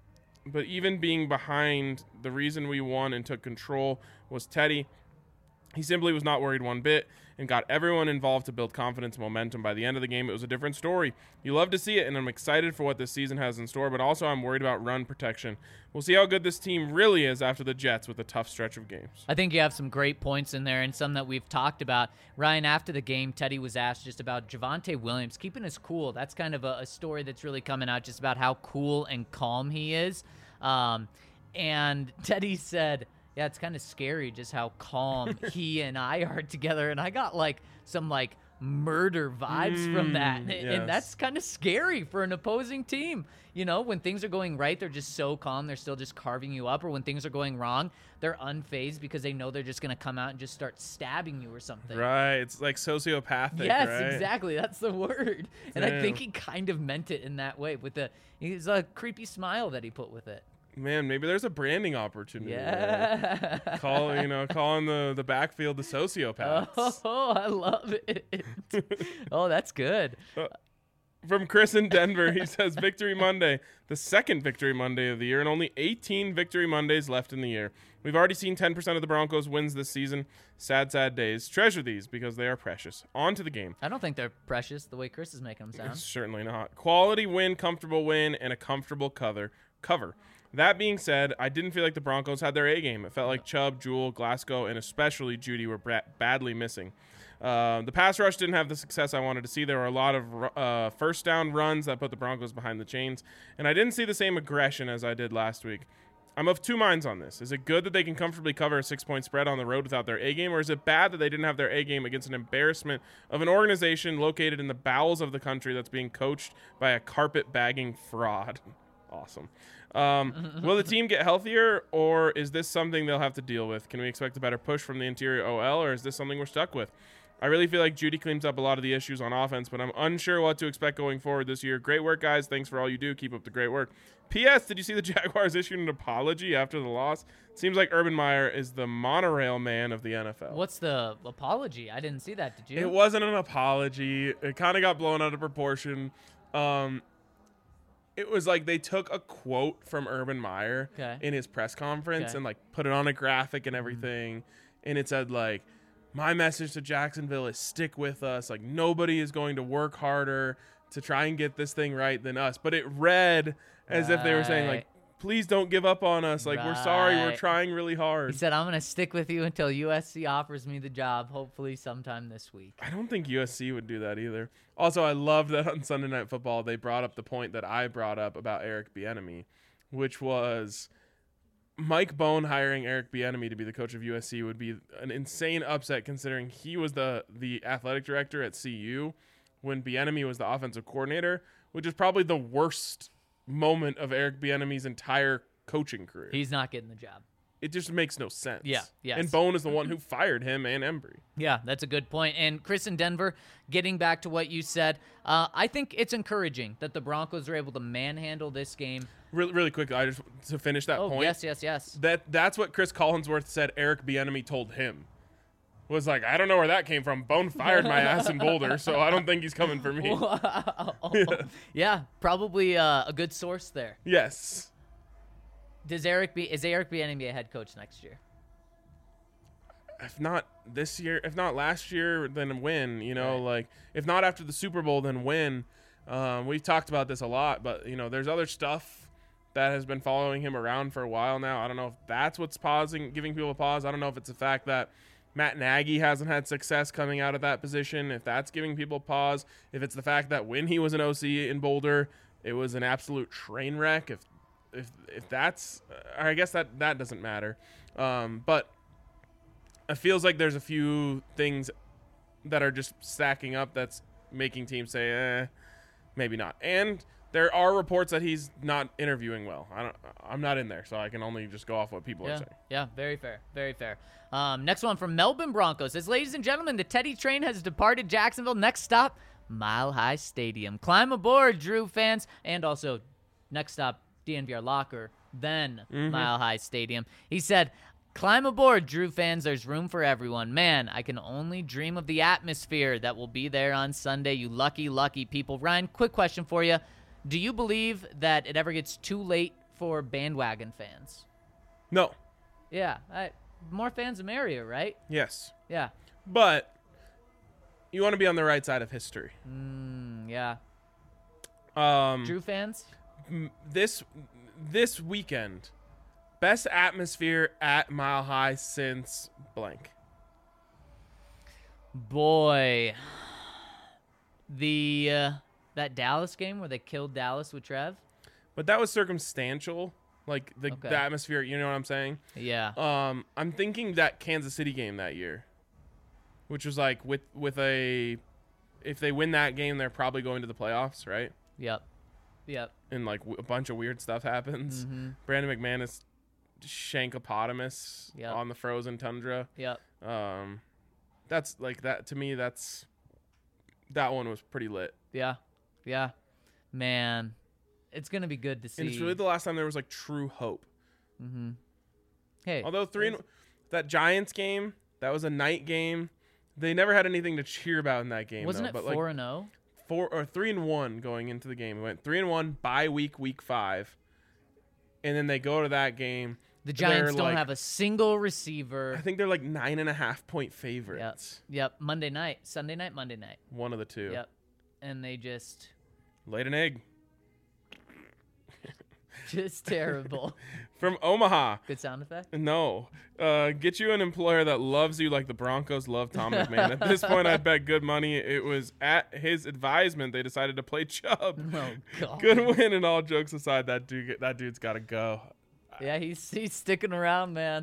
but even being behind, the reason we won and took control was Teddy. He simply was not worried one bit and got everyone involved to build confidence and momentum. By the end of the game, it was a different story. You love to see it, and I'm excited for what this season has in store, but also I'm worried about run protection. We'll see how good this team really is after the Jets with a tough stretch of games. I think you have some great points in there and some that we've talked about. Ryan, after the game, Teddy was asked just about Javonte Williams keeping his cool. That's kind of a, a story that's really coming out just about how cool and calm he is. Um, and Teddy said, yeah, it's kind of scary just how calm he and I are together. And I got like some like murder vibes from that. And, yes. and that's kind of scary for an opposing team. You know, when things are going right, they're just so calm. They're still just carving you up. Or when things are going wrong, they're unfazed because they know they're just going to come out and just start stabbing you or something. Right. It's like sociopathic, Yes, right? exactly. That's the word. And I Damn. think he kind of meant it in that way with the, it's a creepy smile that he put with it. Man, maybe there's a branding opportunity. Yeah. There. Call you know, calling the the backfield the sociopaths. Oh, I love it. Oh, that's good. From Chris in Denver, he says Victory Monday, the second Victory Monday of the year, and only eighteen Victory Mondays left in the year. We've already seen ten percent of the Broncos wins this season. Sad, sad days. Treasure these because they are precious. On to the game. I don't think they're precious the way Chris is making them sound. Certainly not. Quality win, comfortable win, and a comfortable cover. Cover. That being said, I didn't feel like the Broncos had their A game. It felt like Chubb, Jewell, Glasgow, and especially Judy were bra- badly missing. Uh, the pass rush didn't have the success I wanted to see. There were a lot of uh, first down runs that put the Broncos behind the chains, and I didn't see the same aggression as I did last week. I'm of two minds on this. Is it good that they can comfortably cover a six-point spread on the road without their A game, or is it bad that they didn't have their A game against an embarrassment of an organization located in the bowels of the country that's being coached by a carpet-bagging fraud? Awesome. Um, will the team get healthier, or is this something they'll have to deal with? Can we expect a better push from the interior O L, or is this something we're stuck with? I really feel like Judy cleans up a lot of the issues on offense, but I'm unsure what to expect going forward this year. Great work, guys. Thanks for all you do. Keep up the great work. P S. Did you see the Jaguars issued an apology after the loss? Seems like Urban Meyer is the monorail man of the N F L. What's the apology? I didn't see that. Did you? It wasn't an apology. It kind of got blown out of proportion. Um, it was like they took a quote from Urban Meyer Okay. in his press conference Okay. and like put it on a graphic and everything. And it said like, my message to Jacksonville is stick with us. Like nobody is going to work harder to try and get this thing right than us. But it read as if they were saying like, Right. please don't give up on us. Like we're sorry. We're Right. trying really hard. He said, I'm going to stick with you until U S C offers me the job, hopefully sometime this week. I don't think U S C would do that either. Also, I love that on Sunday Night Football, they brought up the point that I brought up about Eric Bieniemy, which was Mike Bohn hiring Eric Bieniemy to be the coach of U S C would be an insane upset considering he was the, the athletic director at C U when Bieniemy was the offensive coordinator, which is probably the worst moment of Eric Bieniemy's entire coaching career. He's not getting the job. It just makes no sense. Yeah, yes. And Bohn is the one who fired him and Embry. Yeah, that's a good point. And Chris in Denver, getting back to what you said, uh, I think it's encouraging that the Broncos are able to manhandle this game. Really, really quickly, I just to finish that Oh, point. yes, yes, yes. That that's what Chris Collinsworth said Eric Bieniemy told him. Was like, I don't know where that came from. Bone fired my ass in Boulder, so I don't think he's coming for me. Wow. Yeah, probably uh, a good source there. Yes. Does Eric be is Eric Bieniemy a head coach next year? If not this year, if not last year, then win. You know, Right. like if not after the Super Bowl, then win. Um, we've talked about this a lot, but you know, there's other stuff that has been following him around for a while now. I don't know if that's what's pausing, giving people a pause. I don't know if it's the fact that Matt Nagy hasn't had success coming out of that position, if that's giving people pause, if it's the fact that when he was an O C in Boulder, it was an absolute train wreck. If if if that's, uh, I guess that that doesn't matter. Um, but it feels like there's a few things that are just stacking up that's making teams say, eh, maybe not. And there are reports that he's not interviewing well. I don't. I'm not in there, so I can only just go off what people Yeah, are saying. yeah, very fair, very fair. Um, next one from Melbourne Broncos says, ladies and gentlemen, the Teddy train has departed Jacksonville. Next stop, Mile High Stadium. Climb aboard, Drew fans, and also next stop, D N V R Locker, then Mm-hmm. Mile High Stadium. He said, climb aboard, Drew fans. There's room for everyone. Man, I can only dream of the atmosphere that will be there on Sunday. You lucky, lucky people. Ryan, quick question for you. Do you believe that it ever gets too late for bandwagon fans? No. Yeah, I, more fans the merrier, right? Yes. Yeah. But you want to be on the right side of history. Mm, yeah. Um, Drew fans? m- this this weekend, best atmosphere at Mile High since blank. Boy. The uh, that Dallas game where they killed Dallas with Trev? But that was circumstantial. Like the, Okay. the atmosphere, you know what I'm saying? Yeah. Um, I'm thinking that Kansas City game that year, which was like with with a, if they win that game, they're probably going to the playoffs, right? Yep. Yep. And like w- a bunch of weird stuff happens. Mhm. Brandon McManus, Shankopotamus Yep. on the frozen tundra. Yep. Um, that's like that to me. That's that one was pretty lit. Yeah. Yeah. Man. It's gonna be good to see. And it's really the last time there was like true hope. Mm-hmm. Hey, Although three and, that Giants game, that was a night game. They never had anything to cheer about in that game. wasn't though, it but four like and zero? four or three and one going into the game. We went three and one bye week, week five, and then they go to that game. The Giants They're don't like- have a single receiver. I think they're like nine and a half point favorites. Yep. Monday night, Sunday night, Monday night. One of the two. Yep. And they just, Laid an egg just terrible. from Omaha. Good sound effect. No. Uh, get you an employer that loves you like the Broncos love Tom McMahon. At this point, I bet good money it was at his advisement they decided to play Chubb. Oh God. Good win, and all jokes aside, that dude, that dude's got to go. Yeah, he's he's sticking around, man.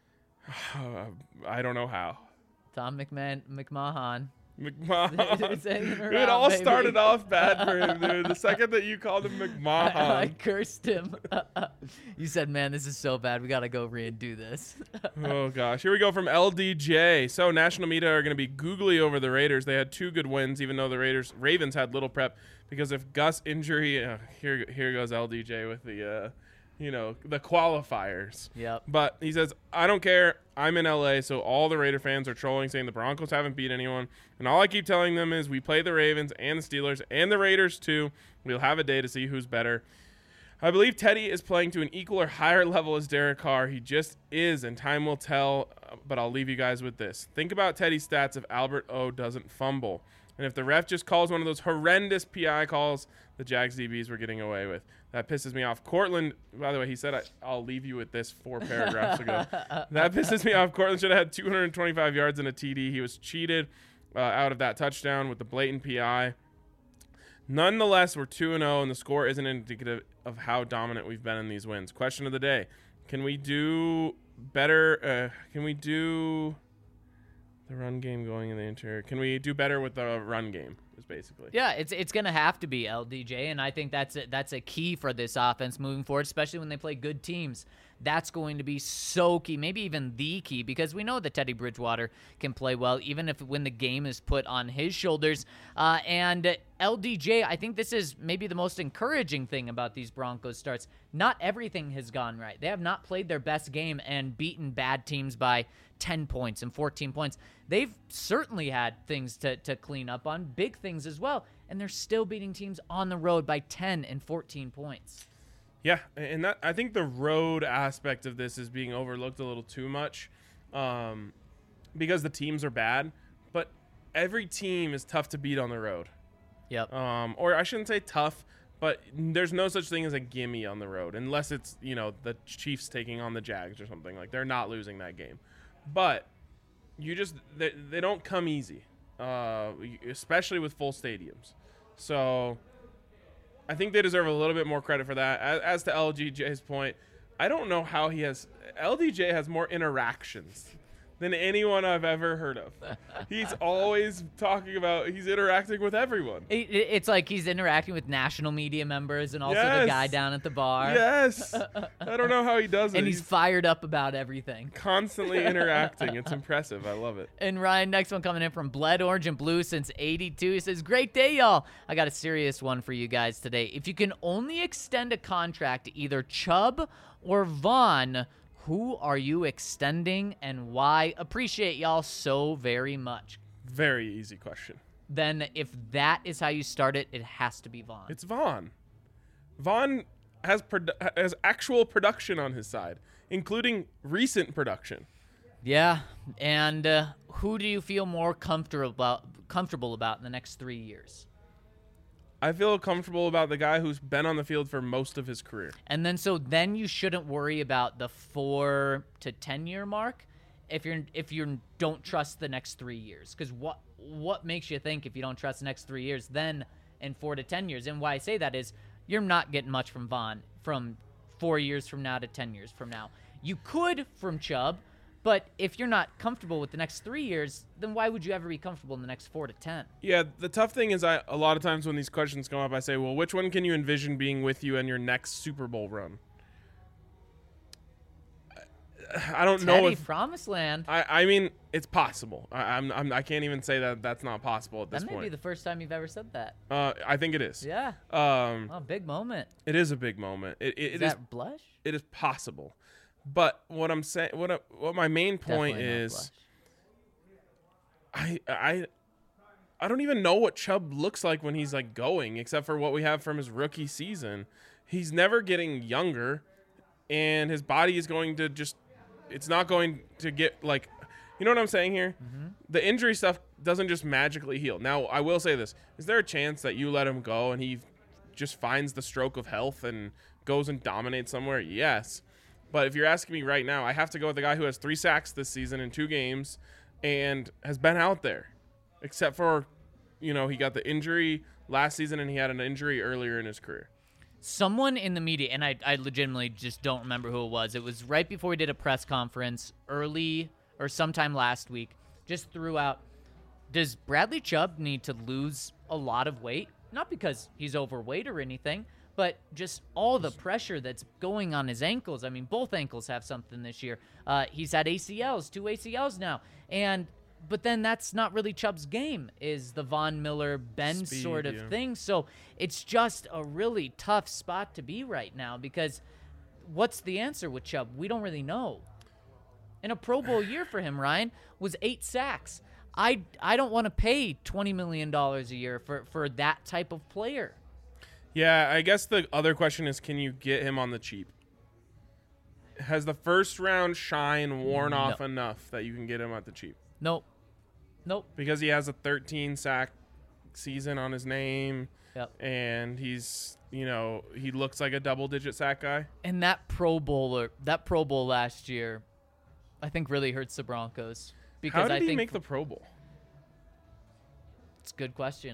Uh, I don't know how. Tom McMahon, McMahon. McMahon. He's hanging it around, all baby. started off bad for him, dude. The second that you called him I, I McMahon. cursed him. You said, "Man, this is so bad. We gotta go redo this." Oh gosh, here we go from L D J. So national media are going to be googly over the Raiders. They had two good wins, even though the Raiders Ravens had little prep because of Gus injury. Uh, here, here goes L D J with the, uh, you know, the qualifiers. Yep. But he says, I don't care. I'm in L A, so all the Raider fans are trolling, saying the Broncos haven't beat anyone. And all I keep telling them is we play the Ravens and the Steelers and the Raiders too. We'll have a day to see who's better. I believe Teddy is playing to an equal or higher level as Derek Carr. He just is, and time will tell. uh, But I'll leave you guys with this. Think about Teddy's stats if Albert O doesn't fumble. And if the ref just calls one of those horrendous P I calls the Jags D Bs were getting away with. That pisses me off. Cortland, by the way, he said, I, I'll leave you with this four paragraphs ago. That pisses me off. Cortland should have had two hundred twenty-five yards and a T D. He was cheated uh, out of that touchdown with the blatant P I. Nonetheless, we're two and oh, and the score isn't indicative of how dominant we've been in these wins. Question of the day. Can we do better? Uh, can we do the run game going in the interior? Can we do better with the run game, is basically. Yeah, it's it's gonna have to be L D J, and I think that's a, that's a key for this offense moving forward, especially when they play good teams. That's going to be so key, maybe even the key, because we know that Teddy Bridgewater can play well, even if when the game is put on his shoulders. Uh, and L D J, I think this is maybe the most encouraging thing about these Broncos starts. Not everything has gone right. They have not played their best game and beaten bad teams by ten points and fourteen points. They've certainly had things to, to clean up on, big things as well, and they're still beating teams on the road by ten and fourteen points. Yeah, and that I think the road aspect of this is being overlooked a little too much, um, because the teams are bad. But every team is tough to beat on the road. Yep. Um, or I shouldn't say tough, but there's no such thing as a gimme on the road, unless it's, you know, the Chiefs taking on the Jags or something. Like, they're not losing that game. But you just they, they don't come easy, uh, especially with full stadiums. So I think they deserve a little bit more credit for that. As, as to L D J's point, I don't know how he has – L D J has more interactions than anyone I've ever heard of. He's always talking about – he's interacting with everyone. It, it- it's like he's interacting with national media members and also the Yes. guy down at the bar. Yes. I don't know how he does it. And he's fired up about everything. constantly interacting. It's impressive. I love it. And Ryan, next one coming in from Bled Orange and Blue since eighty-two. He says, great day, y'all. I got a serious one for you guys today. If you can only extend a contract to either Chubb or Vaughn, who are you extending and why? Appreciate y'all so very much. Very easy question. Then if that is how you start it, it has to be Vaughn. It's Vaughn. Vaughn has produ- has actual production on his side, including recent production. Yeah, and uh, who do you feel more comfortable about, comfortable about in the next three years? I feel comfortable about the guy who's been on the field for most of his career. And then so then you shouldn't worry about the four to ten year mark if you're if you don't trust the next three years. Because what what makes you think if you don't trust the next three years then in four to ten years? And why I say that is you're not getting much from Vaughn from four years from now to ten years from now. You could from Chubb, but if you're not comfortable with the next three years, then why would you ever be comfortable in the next four to ten? Yeah, the tough thing is I a lot of times when these questions come up, I say, well, which one can you envision being with you in your next Super Bowl run? I don't know Teddy, if promised land. I, I mean it's possible. I, I'm, I'm I can't even say that that's not possible at this That may point. be the first time you've ever said that. uh, I think it is. Yeah. Um, Oh, big moment. it is a big moment. It it, Is it is that blush? it is possible, but what I'm saying, what I, what my main point Definitely not is, blush. I I I don't even know what Chubb looks like when he's like going, except for what we have from his rookie season. He's never getting younger, and his body is going to just, it's not going to get like, you know what I'm saying here? Mm-hmm. The injury stuff doesn't just magically heal. Now, I will say this. Is there a chance that you let him go and he just finds the stroke of health and goes and dominates somewhere? Yes. But if you're asking me right now, I have to go with the guy who has three sacks this season in two games and has been out there, except for, you know, he got the injury last season and he had an injury earlier in his career. Someone in the media, and I, I legitimately just don't remember who it was. It was right before we did a press conference early or sometime last week, just threw out, does Bradley Chubb need to lose a lot of weight? Not because he's overweight or anything, but just all the pressure that's going on his ankles. I mean, both ankles have something this year. Uh, he's had A C Ls, two A C Ls now. And but then that's not really Chubb's game, is the Von Miller, Ben Speed, sort of yeah. thing. So it's just a really tough spot to be right now because what's the answer with Chubb? We don't really know. And a Pro Bowl year for him, Ryan, was eight sacks. I, I don't want to pay twenty million dollars a year for, for that type of player. Yeah, I guess the other question is, can you get him on the cheap? Has the first round shine worn No. off enough that you can get him at the cheap? Nope. Nope. Because he has a thirteen sack season on his name, Yep. and he's, you know, he looks like a double digit sack guy. And that Pro Bowler, that Pro Bowl last year, I think really hurts the Broncos. Because How did I he think make the Pro Bowl? it's a good question.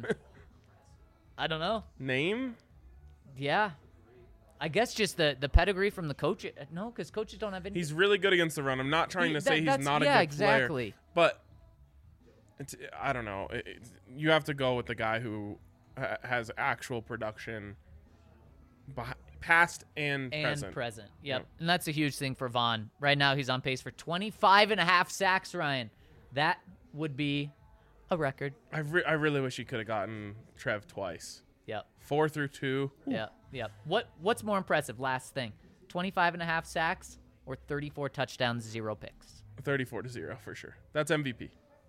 I don't know. Name? Yeah. I guess just the, the pedigree from the coach. No, because coaches don't have any. He's really good against the run. I'm not trying He- to that- say he's that's- not a yeah, good exactly. player, but it's, I don't know. It, it- you have to go with the guy who ha- has actual production, beh- past and, and present. present. Yep. Yep. And that's a huge thing for Vaughn. Right now, he's on pace for twenty-five and a half sacks, Ryan. That would be a record. I, re- I really wish he could have gotten Trev twice. Yep. Four through two. Yep. Yep. What What's more impressive? Last thing, twenty-five and a half sacks or thirty-four touchdowns, zero picks. thirty-four to zero for sure. That's M V P.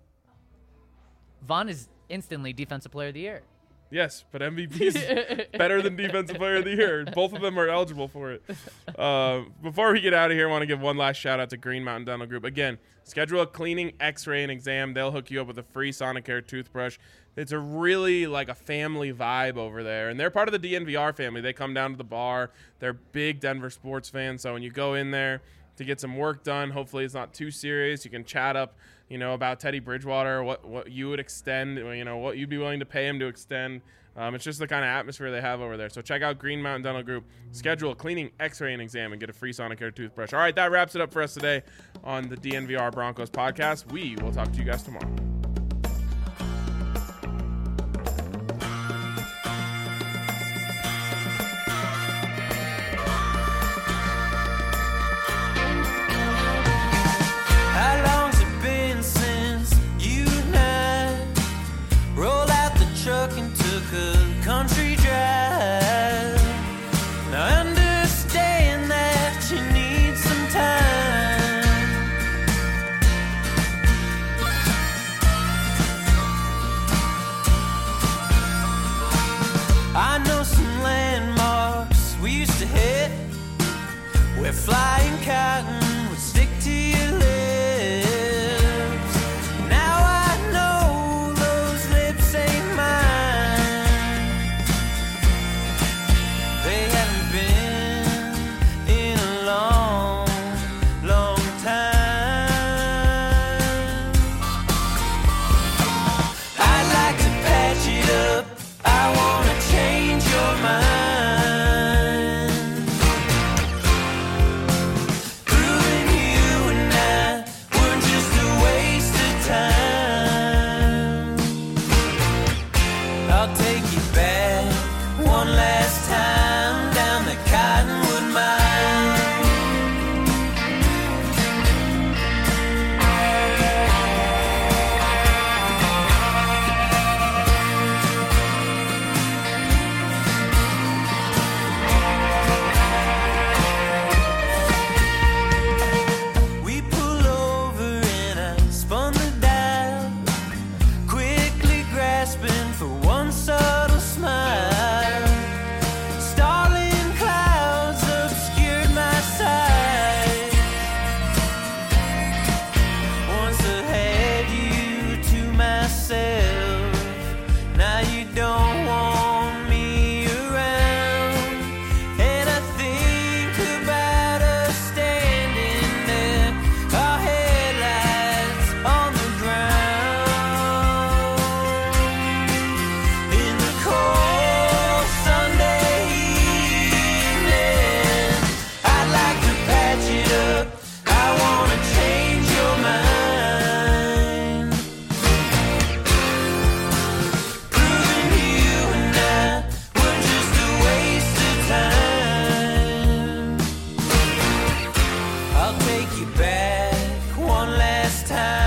Vaughn is instantly Defensive Player of the Year. Yes, but M V P is better than Defensive Player of the Year. Both of them are eligible for it. Uh, before we get out of here, I want to give one last shout out to Green Mountain Dental Group. Again, schedule a cleaning, x-ray, and exam. They'll hook you up with a free Sonicare toothbrush. It's a really like a family vibe over there. And they're part of the D N V R family. They come down to the bar. They're big Denver sports fans. So when you go in there to get some work done, hopefully it's not too serious. You can chat up, you know, about Teddy Bridgewater, what what you would extend, you know, what you'd be willing to pay him to extend. Um, it's just the kind of atmosphere they have over there. So check out Green Mountain Dental Group. Schedule a cleaning, x-ray, and exam, and get a free Sonicare toothbrush. All right, that wraps it up for us today on the D N V R Broncos podcast. We will talk to you guys tomorrow. How long's it been since you and I rolled out the truck and took a country drive? Now I understand that you need some time. I know some landmarks we used to hit where flying cotton would stick to your lips. Now I know those lips ain't mine. They haven't been in a long, long time. I'd like to patch it up. I wanna change your mind. Through town.